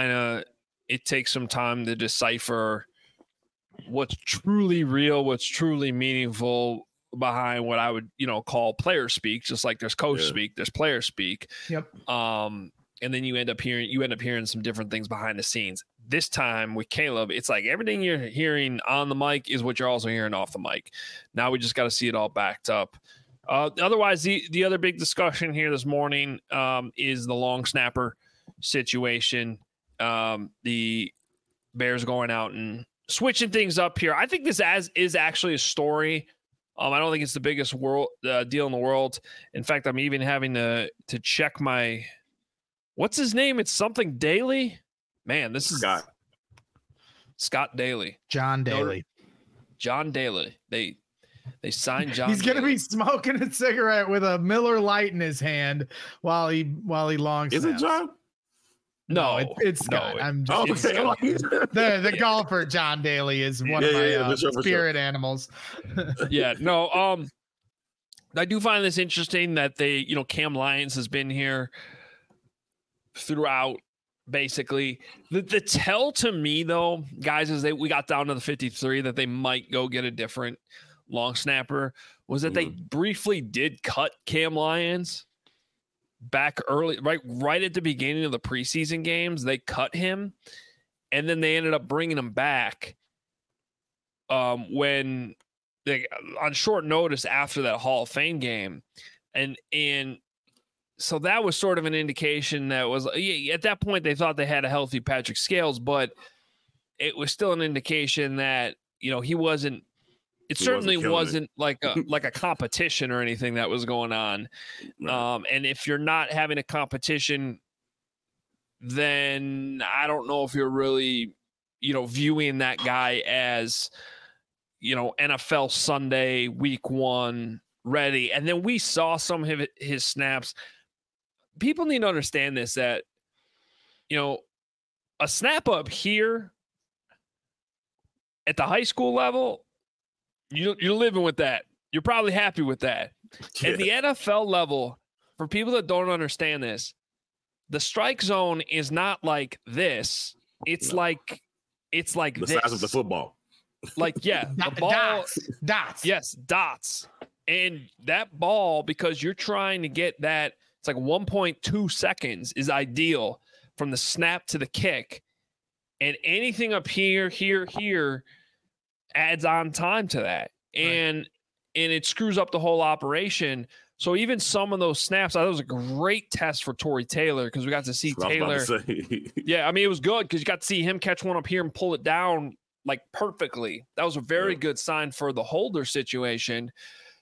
it takes some time to decipher what's truly real, what's truly meaningful behind what I would, call player speak. Just like there's coach speak, there's player speak. Yep. And then you end up hearing some different things behind the scenes. This time with Caleb, it's like everything you're hearing on the mic is what you're also hearing off the mic. Now we just got to see it all backed up. Otherwise, the other big discussion here this morning is the long snapper situation. The Bears going out and switching things up here. I think this is actually a story. I don't think it's the biggest deal in the world. In fact, I'm even having to check my – what's his name? It's something Daly. Man, this is Scott Daly. John Daly. John Daly. They signed John. He's gonna be smoking a cigarette with a Miller Lite in his hand while he long snaps. Is it John? No, it's Scott. No, I'm just the golfer John Daly is one of my spirit animals. Yeah, no. I do find this interesting that Cam Lyons has been here throughout. Basically, the tell to me though, guys, is that we got down to the 53 that they might go get a different long snapper was that they briefly did cut Cam Lyons back early, right at the beginning of the preseason games. They cut him, and then they ended up bringing him back when they on short notice after that Hall of Fame game, and so that was sort of an indication that was at that point they thought they had a healthy Patrick Scales, but it was still an indication that he wasn't it certainly wasn't like a competition or anything that was going on. Right. And if you're not having a competition, then I don't know if you're really, viewing that guy as, NFL Sunday week 1 ready. And then we saw some of his snaps. People need to understand this, that, a snap up here at the high school level, you're living with that. You're probably happy with that. Yeah. At the NFL level, for people that don't understand this, the strike zone is not like this. It's like the size of the football. Like, yeah, the ball dots. Yes, dots. And that ball, because you're trying to get that, it's like 1.2 seconds is ideal from the snap to the kick. And anything up here adds on time to that. And it screws up the whole operation. So even some of those snaps, that was a great test for Tory Taylor, because we got to see Taylor. Yeah, I mean, it was good because you got to see him catch one up here and pull it down like perfectly. That was a very good sign for the holder situation.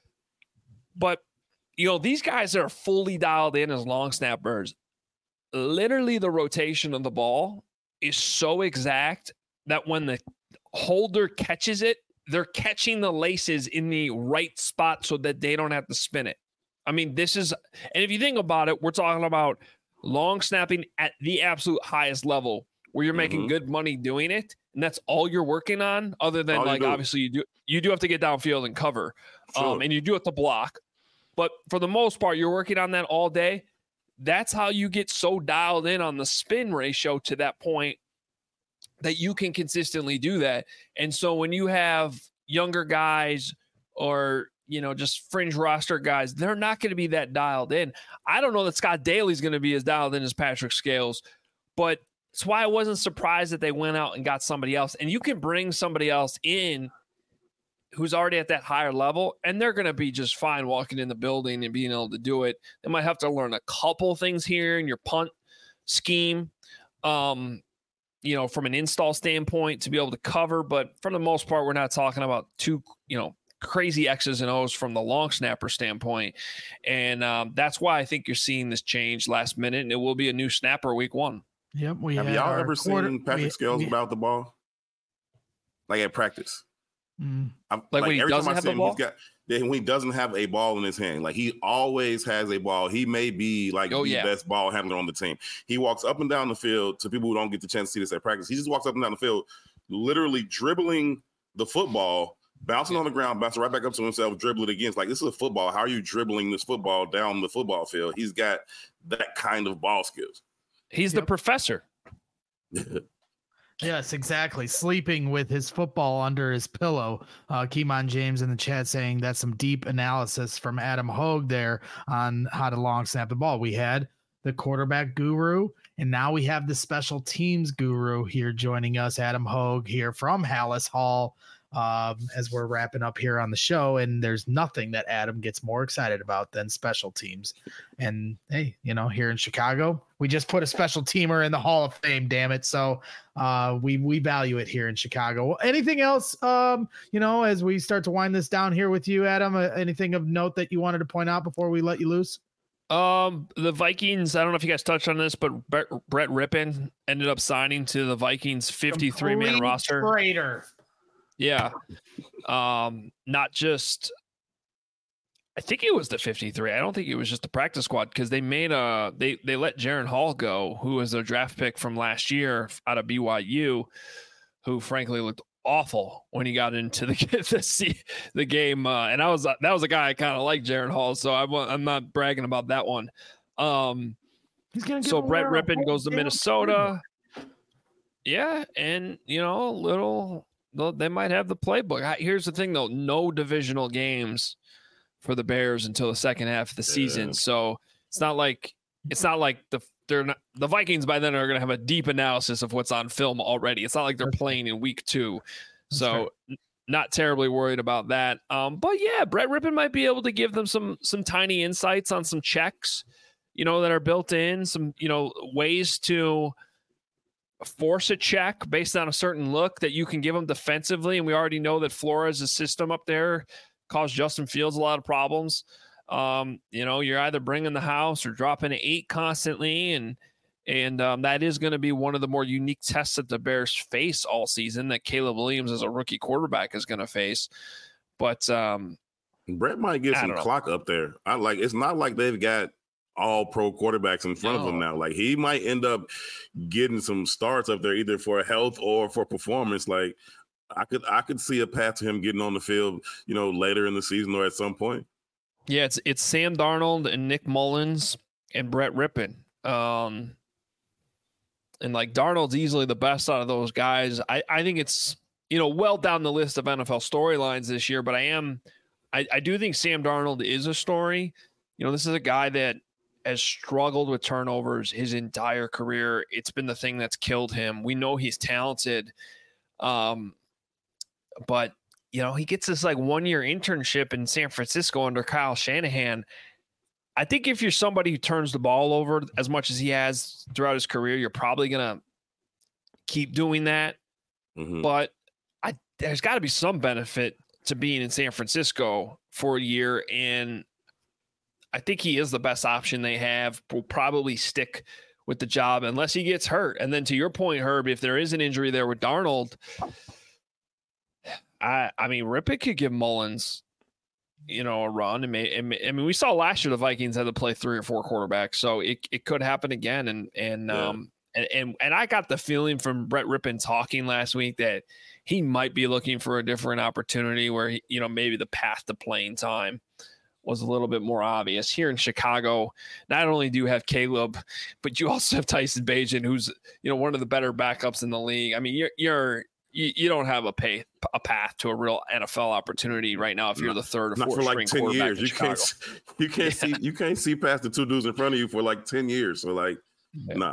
But, these guys that are fully dialed in as long snappers, literally the rotation of the ball is so exact that when the holder catches it, they're catching the laces in the right spot so that they don't have to spin it. I mean, and if you think about it, we're talking about long snapping at the absolute highest level where you're making good money doing it. And that's all you're working on, other than obviously you do have to get downfield and cover. Sure. And you do have to block. But for the most part, you're working on that all day. That's how you get so dialed in on the spin ratio to that point that you can consistently do that. And so when you have younger guys or, just fringe roster guys, they're not going to be that dialed in. I don't know that Scott Daly's going to be as dialed in as Patrick Scales, but it's why I wasn't surprised that they went out and got somebody else. And you can bring somebody else in who's already at that higher level, and they're going to be just fine walking in the building and being able to do it. They might have to learn a couple things here in your punt scheme, from an install standpoint to be able to cover. But for the most part, we're not talking about two, crazy X's and O's from the long snapper standpoint. And that's why I think you're seeing this change last minute, and it will be a new snapper week 1. Yep. Have y'all ever seen Patrick Scales about the ball? Like at practice? Like when he doesn't have the ball? When he doesn't have a ball in his hand, like he always has a ball. He may be like the best ball handler on the team. He walks up and down the field. To people who don't get the chance to see this at practice, he just walks up and down the field, literally dribbling the football, bouncing on the ground, bouncing right back up to himself, dribble it again. It's like, this is a football. How are you dribbling this football down the football field? He's got that kind of ball skills. He's the professor. Yes, exactly. Sleeping with his football under his pillow. Keymon James in the chat saying that's some deep analysis from Adam Hogue there on how to long snap the ball. We had the quarterback guru, and now we have the special teams guru here joining us, Adam Hogue here from Hallis Hall, as we're wrapping up here on the show. And there's nothing that Adam gets more excited about than special teams. And hey, here in Chicago, we just put a special teamer in the Hall of Fame, damn it. So we value it here in Chicago. Anything else, as we start to wind this down here with you, Adam, anything of note that you wanted to point out before we let you loose? The Vikings, I don't know if you guys touched on this, but Brett Rippon ended up signing to the Vikings 53-man roster. Traitor. Yeah. Not just, I think it was the 53. I don't think it was just the practice squad, because they made they let Jaren Hall go, who was their draft pick from last year out of BYU, who frankly looked awful when he got into the game. And that was a guy I kind of like, Jaren Hall. So I'm not bragging about that one. So Brett Rippon goes to Minnesota. Yeah. And they might have the playbook. Here's the thing, though. No divisional games for the Bears until the second half of the season. So it's not like the Vikings by then are going to have a deep analysis of what's on film already. It's not like they're playing in week 2. So not terribly worried about that. But yeah, Brett Rippon might be able to give them some tiny insights on some checks, that are built in, some, ways to force a check based on a certain look that you can give them defensively. And we already know that Flores' system up there caused Justin Fields a lot of problems. You're either bringing the house or dropping an 8 constantly. And that is going to be one of the more unique tests that the Bears face all season that Caleb Williams as a rookie quarterback is going to face. But Brett might get some clock up there. It's not like they've got all pro quarterbacks in front of him now. Like, he might end up getting some starts up there either for health or for performance. Like, I could see a path to him getting on the field, later in the season or at some point. Yeah, it's Sam Darnold and Nick Mullins and Brett Rippon. And like, Darnold's easily the best out of those guys. I think it's, well down the list of NFL storylines this year, but I do think Sam Darnold is a story. This is a guy that has struggled with turnovers his entire career. It's been the thing that's killed him. We know he's talented. But he gets this like 1-year internship in San Francisco under Kyle Shanahan. I think if you're somebody who turns the ball over as much as he has throughout his career, you're probably going to keep doing that. Mm-hmm. But there's got to be some benefit to being in San Francisco for a year. And I think he is the best option they have. Will probably stick with the job unless he gets hurt. And then to your point, Herb, if there is an injury there with Darnold, I mean, Rippon could give Mullins, a run. And we saw last year the Vikings had to play 3 or 4 quarterbacks, so it could happen again. And I got the feeling from Brett Rippon talking last week that he might be looking for a different opportunity where maybe the path to playing time was a little bit more obvious. Here in Chicago, not only do you have Caleb, but you also have Tyson Bagent, who's one of the better backups in the league. I mean, you don't have a path to a real NFL opportunity right now if you're the third or fourth for like string 10 years. You can't see past the 2 dudes in front of you for like 10 years. So nah.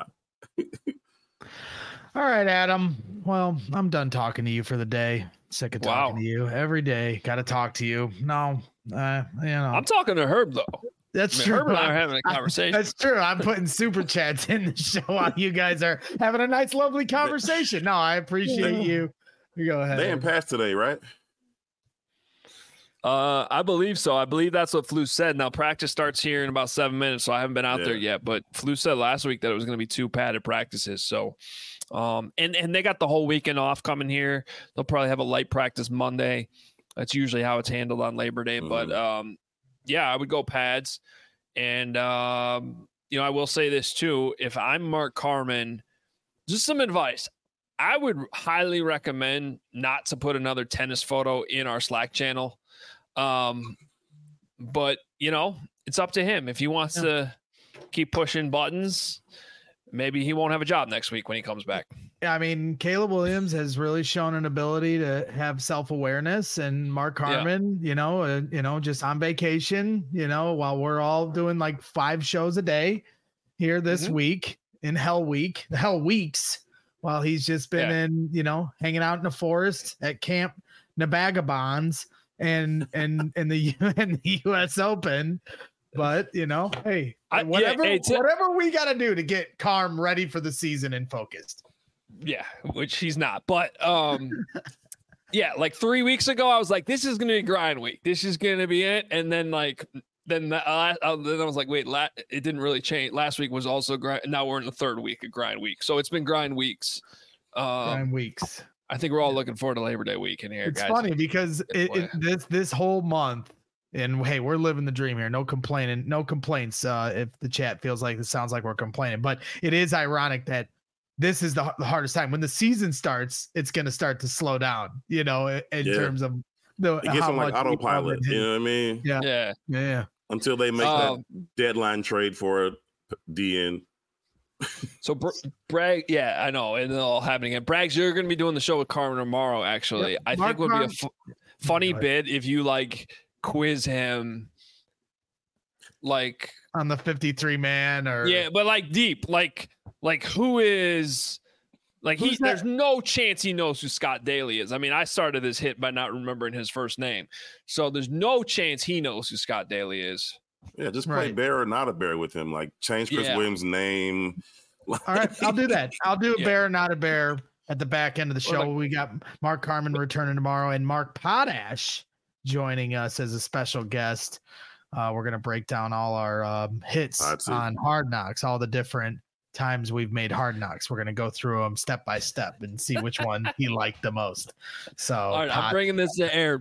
All right, Adam. Well, I'm done talking to you for the day. Sick of talking to you every day. Got to talk to you. No, I'm talking to Herb though. That's true. Herb and I are having a conversation. That's true. I'm putting super chats in the show while you guys are having a nice, lovely conversation. No, I appreciate you. You go ahead. They didn't pass today, right? I believe so. I believe that's what Flu said. Now practice starts here in about 7 minutes, so I haven't been out there yet. But Flu said last week that it was going to be 2 padded practices. So, and they got the whole weekend off coming here. They'll probably have a light practice Monday. That's usually how it's handled on Labor Day. Mm-hmm. But yeah, I would go pads. And I will say this too: if I'm Mark Carman, just some advice. I would highly recommend not to put another tennis photo in our Slack channel. But it's up to him. If he wants to keep pushing buttons, maybe he won't have a job next week when he comes back. Yeah, I mean, Caleb Williams has really shown an ability to have self-awareness, and Mark Carman, just on vacation, while we're all doing like 5 shows a day here this week in Hell Weeks, while he's just been in, hanging out in the forest at Camp Nabagabonds and the US Open. But hey, whatever we got to do to get Carm ready for the season and focused. Yeah, which he's not. But like 3 weeks ago, I was like, this is going to be grind week. This is going to be it. And then I was like, wait, it didn't really change. Last week was also grind. Now we're in the 3rd week of grind week. So it's been grind weeks. Grind weeks. I think we're all looking forward to Labor Day weekend here. It's funny because this whole month, and hey, we're living the dream here. No complaining, no complaints. If the chat feels like it sounds like we're complaining, but it is ironic that this is the hardest time. When the season starts, it's going to start to slow down. In terms of it gets on like autopilot. You know what I mean? Yeah. Until they make that deadline trade for a DN. So Bragg, I know, and it's all happening. And Braggs, you're going to be doing the show with Carmen tomorrow. Actually, I think it would be a funny bit if you quiz him, on the 53 man or but deep, who is there's no chance he knows who Scott Daly is. I mean, I started this hit by not remembering his first name, so there's no chance he knows who Scott Daly is. Yeah, just play bear or not a bear with him. Change Chris Williams' name. All right, I'll do that. I'll do a bear, not a bear at the back end of the show. We got Mark Carman returning tomorrow and Mark Potash joining us as a special guest. We're going to break down all our hits on Hard Knocks, all the different times we've made Hard Knocks. We're going to go through them step by step and see which one he liked the most. So all right, I'm bringing this to air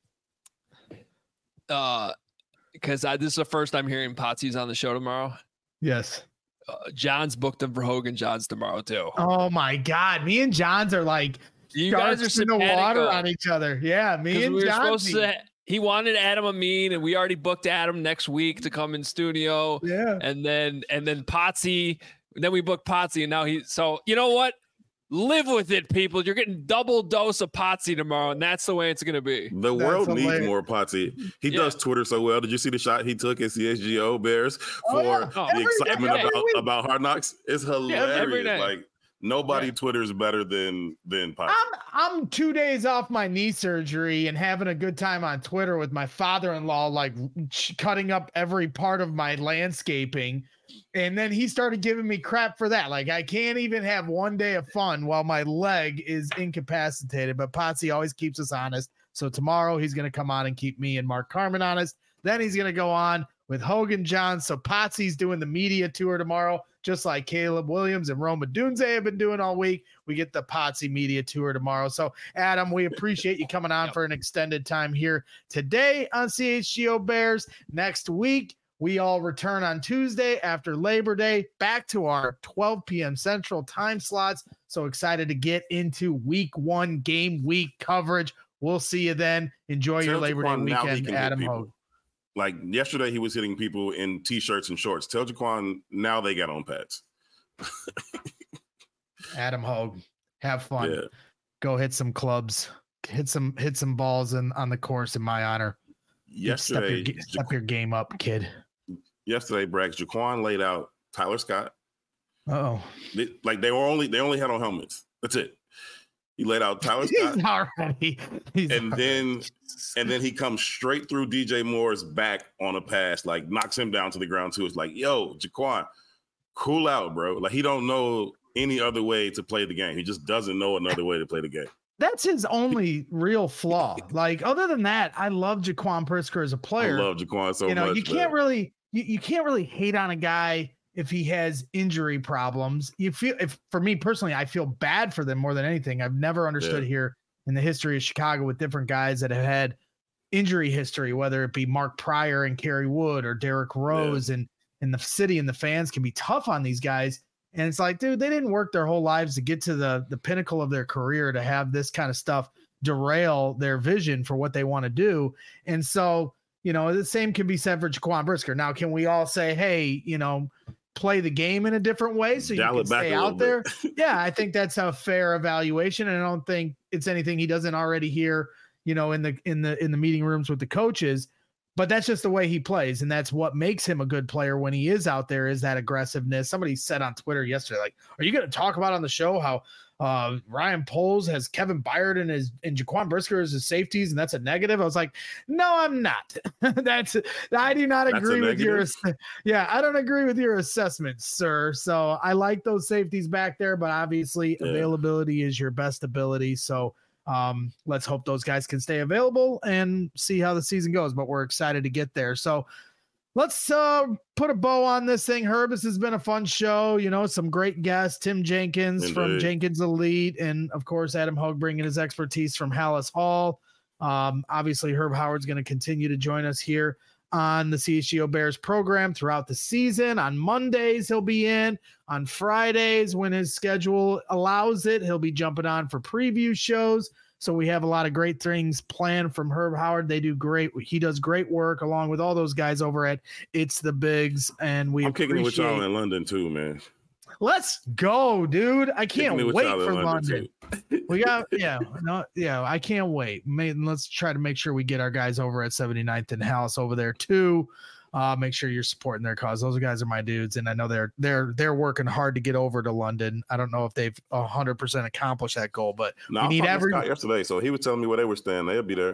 because this is the first I'm hearing Potsy's on the show tomorrow. Yes. John's booked him for Hogan Johns tomorrow too. Oh my God. Me and Johns are like, you guys are in the water on each other. Yeah. Me and Johns. He wanted Adam Amin, and we already booked Adam next week to come in studio. Yeah. And then Potsy, then we booked Potsy, and now so you know what? Live with it, people. You're getting double dose of Potsy tomorrow, and that's the way it's going to be. The world needs more Potsy. He does Twitter so well. Did you see the shot he took at CHGO Bears for the excitement about Hard Knocks? It's hilarious. Like nobody Twitters better than Potsy. I'm 2 days off my knee surgery and having a good time on Twitter with my father-in-law, like cutting up every part of my landscaping. And then he started giving me crap for that. Like, I can't even have one day of fun while my leg is incapacitated. But Potsy always keeps us honest. So tomorrow he's going to come on and keep me and Mark Carman honest. Then he's going to go on with Hogan Johns. So Potsy's doing the media tour tomorrow, just like Caleb Williams and Roma Dunze have been doing all week. We get the Potsy media tour tomorrow. So, Adam, we appreciate you coming on for an extended time here today on CHGO Bears. Next week, we all return on Tuesday after Labor Day, back to our 12 p.m. Central time slots. So excited to get into week 1 game week coverage. We'll see you then. Enjoy your Labor Day weekend, Adam Hogue. Like yesterday, he was hitting people in T-shirts and shorts. Tell Jaquan now they got on pads. Adam Hogue, have fun. Yeah. Go hit some clubs. Hit some balls on the course in my honor. Yesterday, step your game up, kid. Yesterday, Braggs, Jaquan laid out Tyler Scott. Oh, they only had on helmets. That's it. He laid out Tyler Scott. And then he comes straight through DJ Moore's back on a pass, like knocks him down to the ground too. It's like, yo, Jaquan, cool out, bro. Like he don't know any other way to play the game. He just doesn't know another way to play the game. That's his only real flaw. Like other than that, I love Jaquan Brisker as a player. I love Jaquan so much. You can't really hate on a guy if he has injury problems. For me personally, I feel bad for them more than anything. I've never understood here in the history of Chicago with different guys that have had injury history, whether it be Mark Pryor and Kerry Wood or Derrick Rose, and the city and the fans can be tough on these guys. And it's like, dude, they didn't work their whole lives to get to the pinnacle of their career to have this kind of stuff derail their vision for what they want to do. And so, the same can be said for Jaquan Brisker. Now, can we all say, hey, play the game in a different way so you can stay out there? Yeah, I think that's a fair evaluation. And I don't think it's anything he doesn't already hear, in the meeting rooms with the coaches. But that's just the way he plays. And that's what makes him a good player when he is out there, is that aggressiveness. Somebody said on Twitter yesterday, like, are you going to talk about on the show how Ryan Poles has Kevin Byard and Jaquan Brisker as his safeties, and that's a negative? I was like, no, I'm not. I do not agree with your. Yeah, I don't agree with your assessment, sir. So I like those safeties back there, but obviously availability is your best ability. So let's hope those guys can stay available and see how the season goes. But we're excited to get there. So let's put a bow on this thing. Herb, this has been a fun show. Some great guests, Tim Jenkins from Jenkins Elite, and of course Adam Hogue bringing his expertise from Hallis Hall. Obviously Herb Howard's going to continue to join us here on the CHGO Bears program throughout the season. On Mondays he'll be in. On Fridays, when his schedule allows it, he'll be jumping on for preview shows. So we have a lot of great things planned from Herb Howard. They do great. He does great work along with all those guys over at It's the Bigs. And I'm kicking it with y'all in London too, man. Let's go, dude. I can't wait for London. We got, I can't wait. Let's try to make sure we get our guys over at 79th and Hallis over there too. Make sure you're supporting their cause. Those guys are my dudes, and I know they're working hard to get over to London. I don't know if they've 100% accomplished that goal, but we need every Scott yesterday. So he was telling me where they were staying. They'll be there.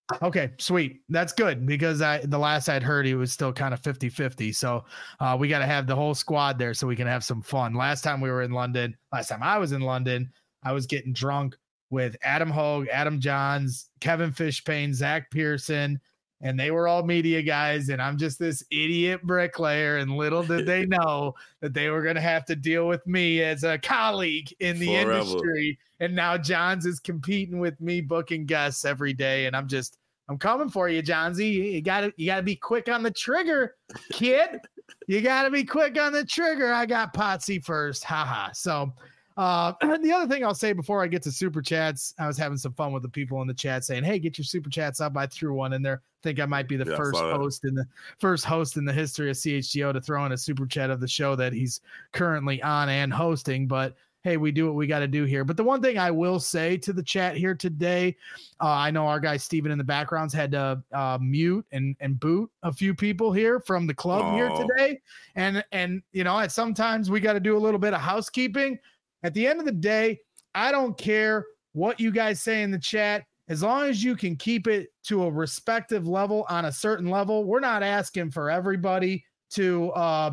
Okay, sweet. That's good because the last I'd heard he was still kind of 50-50. So we got to have the whole squad there so we can have some fun. Last time I was in London, I was getting drunk with Adam Hogue, Adam Johns, Kevin Fishpayne, Zach Pearson, and they were all media guys. And I'm just this idiot bricklayer. And little did they know that they were going to have to deal with me as a colleague in the industry. And now Johns is competing with me, booking guests every day. And I'm coming for you, Johnsy. You gotta be quick on the trigger, kid. You gotta be quick on the trigger. I got Potsy first. Haha. So the other thing I'll say before I get to super chats, I was having some fun with the people in the chat saying, hey, get your super chats up. I threw one in there. I think I might be the first host in the history of CHGO to throw in a super chat of the show that he's currently on and hosting. But hey, we do what we got to do here. But the one thing I will say to the chat here today, I know our guy Steven in the backgrounds had to mute and boot a few people here from the club here today. And at sometimes we got to do a little bit of housekeeping. At the end of the day, I don't care what you guys say in the chat. As long as you can keep it to a respective level on a certain level, we're not asking for everybody to,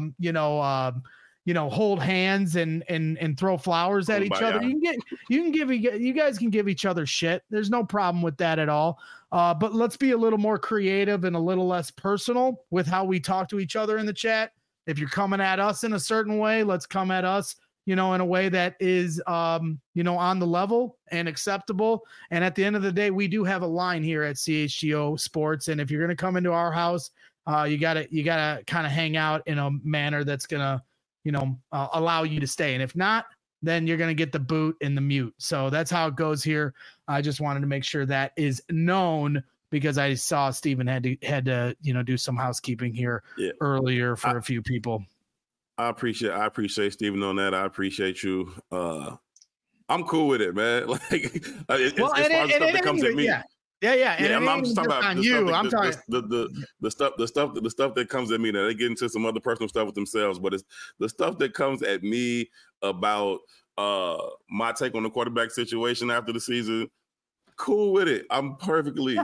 hold hands and throw flowers at each other. You guys can give each other shit. There's no problem with that at all. But let's be a little more creative and a little less personal with how we talk to each other in the chat. If you're coming at us in a certain way, let's come at us, in a way that is, on the level and acceptable. And at the end of the day, we do have a line here at CHGO Sports. And if you're going to come into our house, you gotta kind of hang out in a manner that's going to, allow you to stay. And if not, then you're going to get the boot and the mute. So that's how it goes here. I just wanted to make sure that is known because I saw Steven had to, do some housekeeping here earlier for a few people. I appreciate Steven on that. I appreciate you. I'm cool with it, man. Like it's far as stuff that comes at me. Yeah. And I'm just talking about you. I'm talking the stuff that comes at me. Now they get into some other personal stuff with themselves, but it's the stuff that comes at me about my take on the quarterback situation after the season. Cool with it. I'm perfectly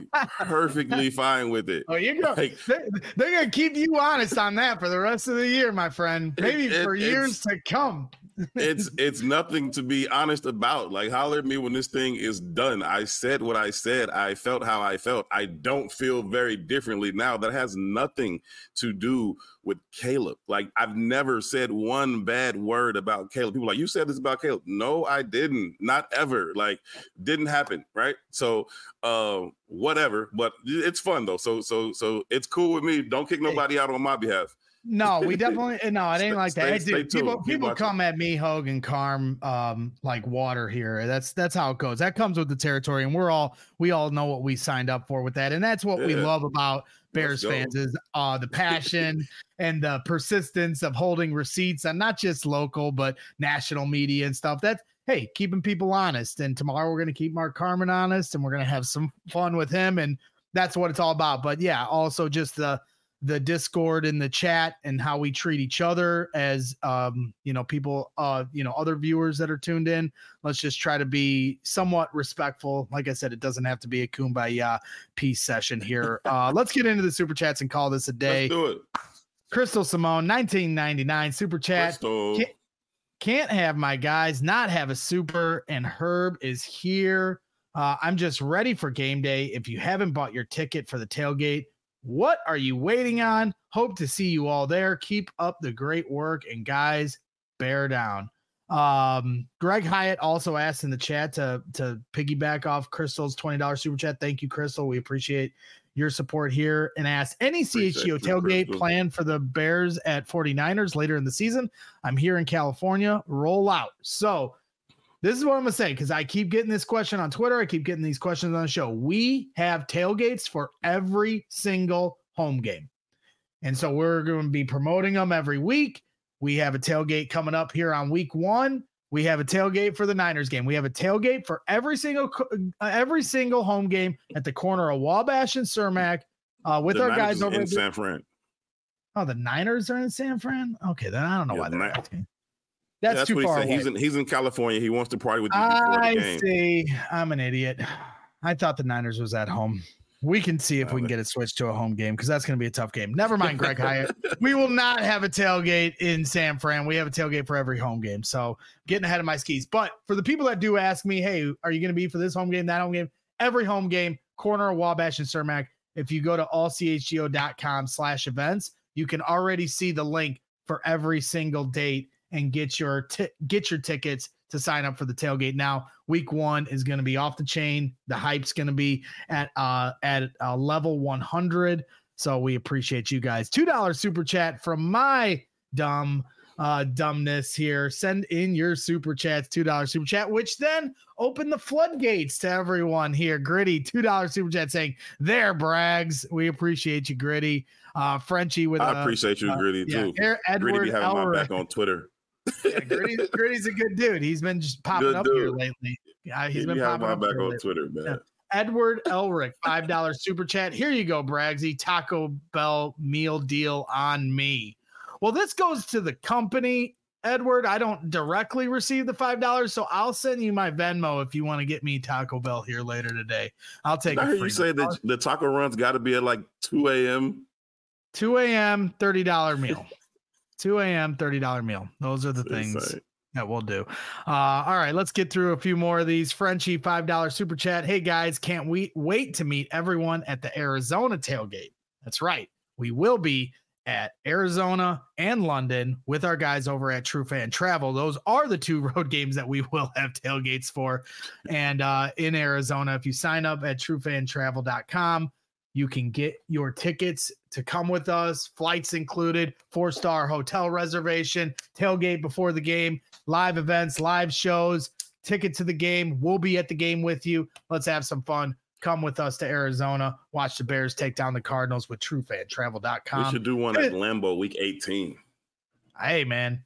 fine with it. Oh, you go. Like, they're gonna keep you honest on that for the rest of the year, my friend. Maybe for years to come. It's nothing to be honest about. Like, holler at me when this thing is done. I said what I said. I felt how I felt. I don't feel very differently now. That has nothing to do with Caleb. Like, I've never said one bad word about Caleb. People are like, you said this about Caleb. No, I didn't. Not ever. Like, didn't happen. Right. So whatever. But it's fun though. So it's cool with me. Don't kick nobody out on my behalf. No, we definitely it ain't like that. People come at me, Hogue and Carm, like water here. That's how it goes. That comes with the territory, and we all know what we signed up for with that, and that's what we love about Bears fans is the passion and the persistence of holding receipts on not just local but national media and stuff. That's keeping people honest. And tomorrow we're gonna keep Mark Carman honest, and we're gonna have some fun with him, and that's what it's all about. But yeah, also just the Discord in the chat and how we treat each other as, people, other viewers that are tuned in. Let's just try to be somewhat respectful. Like I said, it doesn't have to be a kumbaya peace session here. Let's get into the super chats and call this a day. Let's do it. Crystal Simone, 1999 super chat. Can't have my guys not have a super, and Herb is here. I'm just ready for game day. If you haven't bought your ticket for the tailgate, what are you waiting on? Hope to see you all there. Keep up the great work, and guys, bear down. Greg Hyatt also asked in the chat to piggyback off Crystal's $20 super chat. Thank you, Crystal. We appreciate your support here, and asked any CHGO tailgate plan for the Bears at 49ers later in the season. I'm here in California. Roll out. So this is what I'm going to say, because I keep getting this question on Twitter. I keep getting these questions on the show. We have tailgates for every single home game. And so we're going to be promoting them every week. We have a tailgate coming up here on week 1. We have a tailgate for the Niners game. We have a tailgate for every single home game at the corner of Wabash and Cermak with our guys over in San Fran. Oh, the Niners are in San Fran? Okay, then I don't know why they're asking. That's too far away. He's in California. He wants to party with you before the game. I see. I'm an idiot. I thought the Niners was at home. We can see if we can get it switched to a home game because that's going to be a tough game. Never mind, Greg Hyatt. We will not have a tailgate in San Fran. We have a tailgate for every home game. So getting ahead of my skis. But for the people that do ask me, hey, are you going to be for this home game, that home game? Every home game, corner of Wabash and Cermak. If you go to allchgo.com/events, you can already see the link for every single date and get your tickets to sign up for the tailgate. Now, week 1 is going to be off the chain. The hype's going to be at level 100. So we appreciate you guys. $2 super chat from my dumbness here. Send in your super chats, $2 super chat, which then open the floodgates to everyone here. Gritty, $2 super chat saying, there, Brags. We appreciate you, Gritty. Frenchie with I appreciate you, Gritty, too. Edward Gritty be having my back on Twitter. Yeah, Gritty's a good dude. He's been just popping up here lately. He's been popping up back on Twitter, man. Yeah. Edward Elric, $5 super chat. Here you go, Bragsy. Taco Bell meal deal on me. Well, this goes to the company, Edward. I don't directly receive the $5, so I'll send you my Venmo if you want to get me Taco Bell here later today. I'll take it. I heard you say that the taco run's got to be at like 2 a.m. 2 a.m., $30 meal. 2 a.m., $30 meal. Those are the things that we'll do. All right, let's get through a few more of these. Frenchie, $5 super chat. Hey, guys, can't wait to meet everyone at the Arizona tailgate. That's right. We will be at Arizona and London with our guys over at True Fan Travel. Those are the 2 road games that we will have tailgates for. And in Arizona, if you sign up at truefantravel.com, you can get your tickets to come with us, flights included, 4-star hotel reservation, tailgate before the game, live events, live shows, ticket to the game. We'll be at the game with you. Let's have some fun. Come with us to Arizona. Watch the Bears take down the Cardinals with truefantravel.com. We should do one at Lambeau week 18. Hey, man.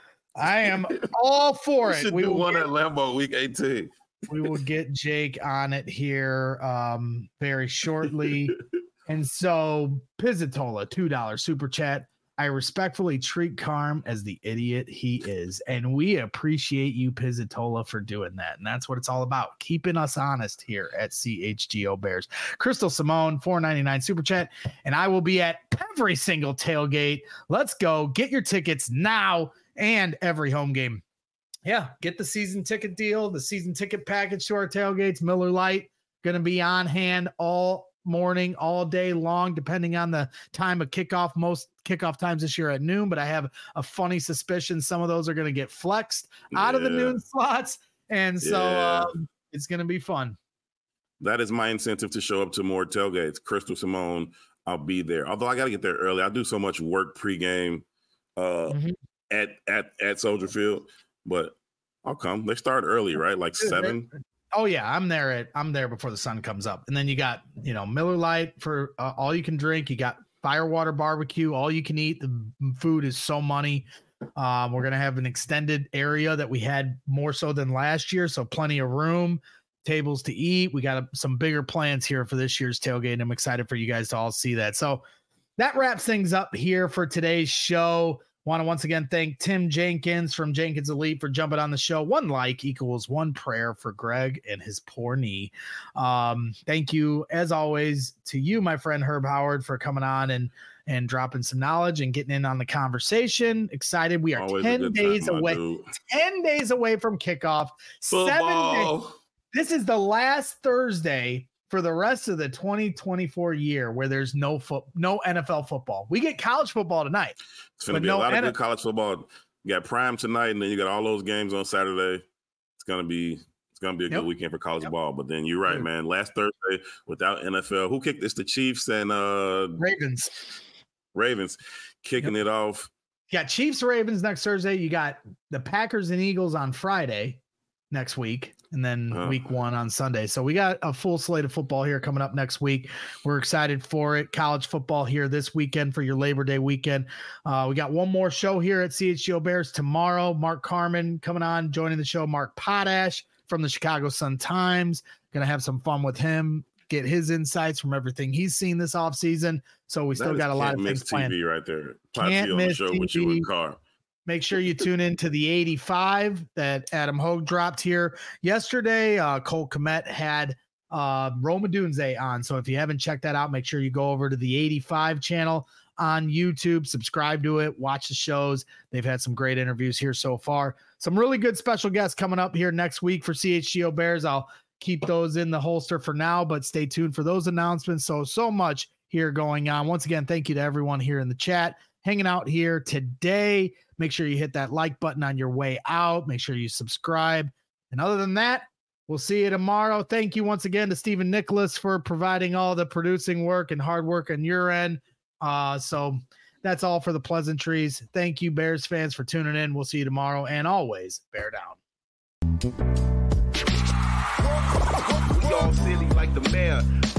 I am all for it. We should do one at Lambeau week 18. We will get Jake on it here very shortly. And so Pizzatola, $2 super chat. I respectfully treat Carm as the idiot he is. And we appreciate you, Pizzatola, for doing that. And that's what it's all about. Keeping us honest here at CHGO Bears. Crystal Simone, $4.99 super chat. And I will be at every single tailgate. Let's go. Get your tickets now and every home game. Yeah, get the season ticket deal, the season ticket package to our tailgates. Miller Lite going to be on hand all morning, all day long, depending on the time of kickoff. Most kickoff times this year at noon, but I have a funny suspicion some of those are going to get flexed out of the noon slots. And so it's going to be fun. That is my incentive to show up to more tailgates. Crystal Simone, I'll be there. Although I got to get there early. I do so much work pregame at Soldier Field. But I'll come. They start early, right? Like 7. Oh yeah, I'm there before the sun comes up. And then you got, Miller Lite for all you can drink. You got Firewater barbecue, all you can eat. The food is so money. We're gonna have an extended area that we had more so than last year, so plenty of room, tables to eat. We got some bigger plans here for this year's tailgate, and I'm excited for you guys to all see that. So that wraps things up here for today's show. Want to once again thank Tim Jenkins from Jenkins Elite for jumping on the show. 1 like equals 1 prayer for Greg and his poor knee. Thank you, as always, to you, my friend Herb Howard, for coming on and dropping some knowledge and getting in on the conversation. Excited. We are always 10 days away. 10 days away from kickoff. Football. 7 days. This is the last Thursday for the rest of the 2024 year where there's no NFL football. We get college football tonight. It's going to be a lot of good college football. You got Prime tonight, and then you got all those games on Saturday. It's going to be a good weekend for college ball. But then you're right, man. Last Thursday without NFL. Who kicked this? The Chiefs and Ravens kicking it off. You got Chiefs, Ravens next Thursday. You got the Packers and Eagles on Friday next week, and then week 1 on Sunday. So we got a full slate of football here coming up next week. We're excited for it. College football here this weekend for your Labor Day weekend. We got one more show here at CHGO Bears tomorrow. Mark Carman coming on, joining the show. Mark Potash from the Chicago Sun-Times. Going to have some fun with him, get his insights from everything he's seen this offseason. So we still got a lot of things planned. TV right there. Can't miss show TV. With you and Carr. Make sure you tune in to the 85 that Adam Hogue dropped here yesterday. Cole Kmet had Roma Dunze on. So if you haven't checked that out, make sure you go over to the 85 channel on YouTube, subscribe to it, watch the shows. They've had some great interviews here so far. Some really good special guests coming up here next week for CHGO Bears. I'll keep those in the holster for now, but stay tuned for those announcements. So much here going on. Once again, thank you to everyone here in the chat hanging out here today. Make sure you hit that like button on your way out. Make sure you subscribe. And other than that, we'll see you tomorrow. Thank you once again to Stephen Nicholas for providing all the producing work and hard work on your end. So that's all for the pleasantries. Thank you, Bears fans, for tuning in. We'll see you tomorrow. And always, bear down. We all silly like the mayor.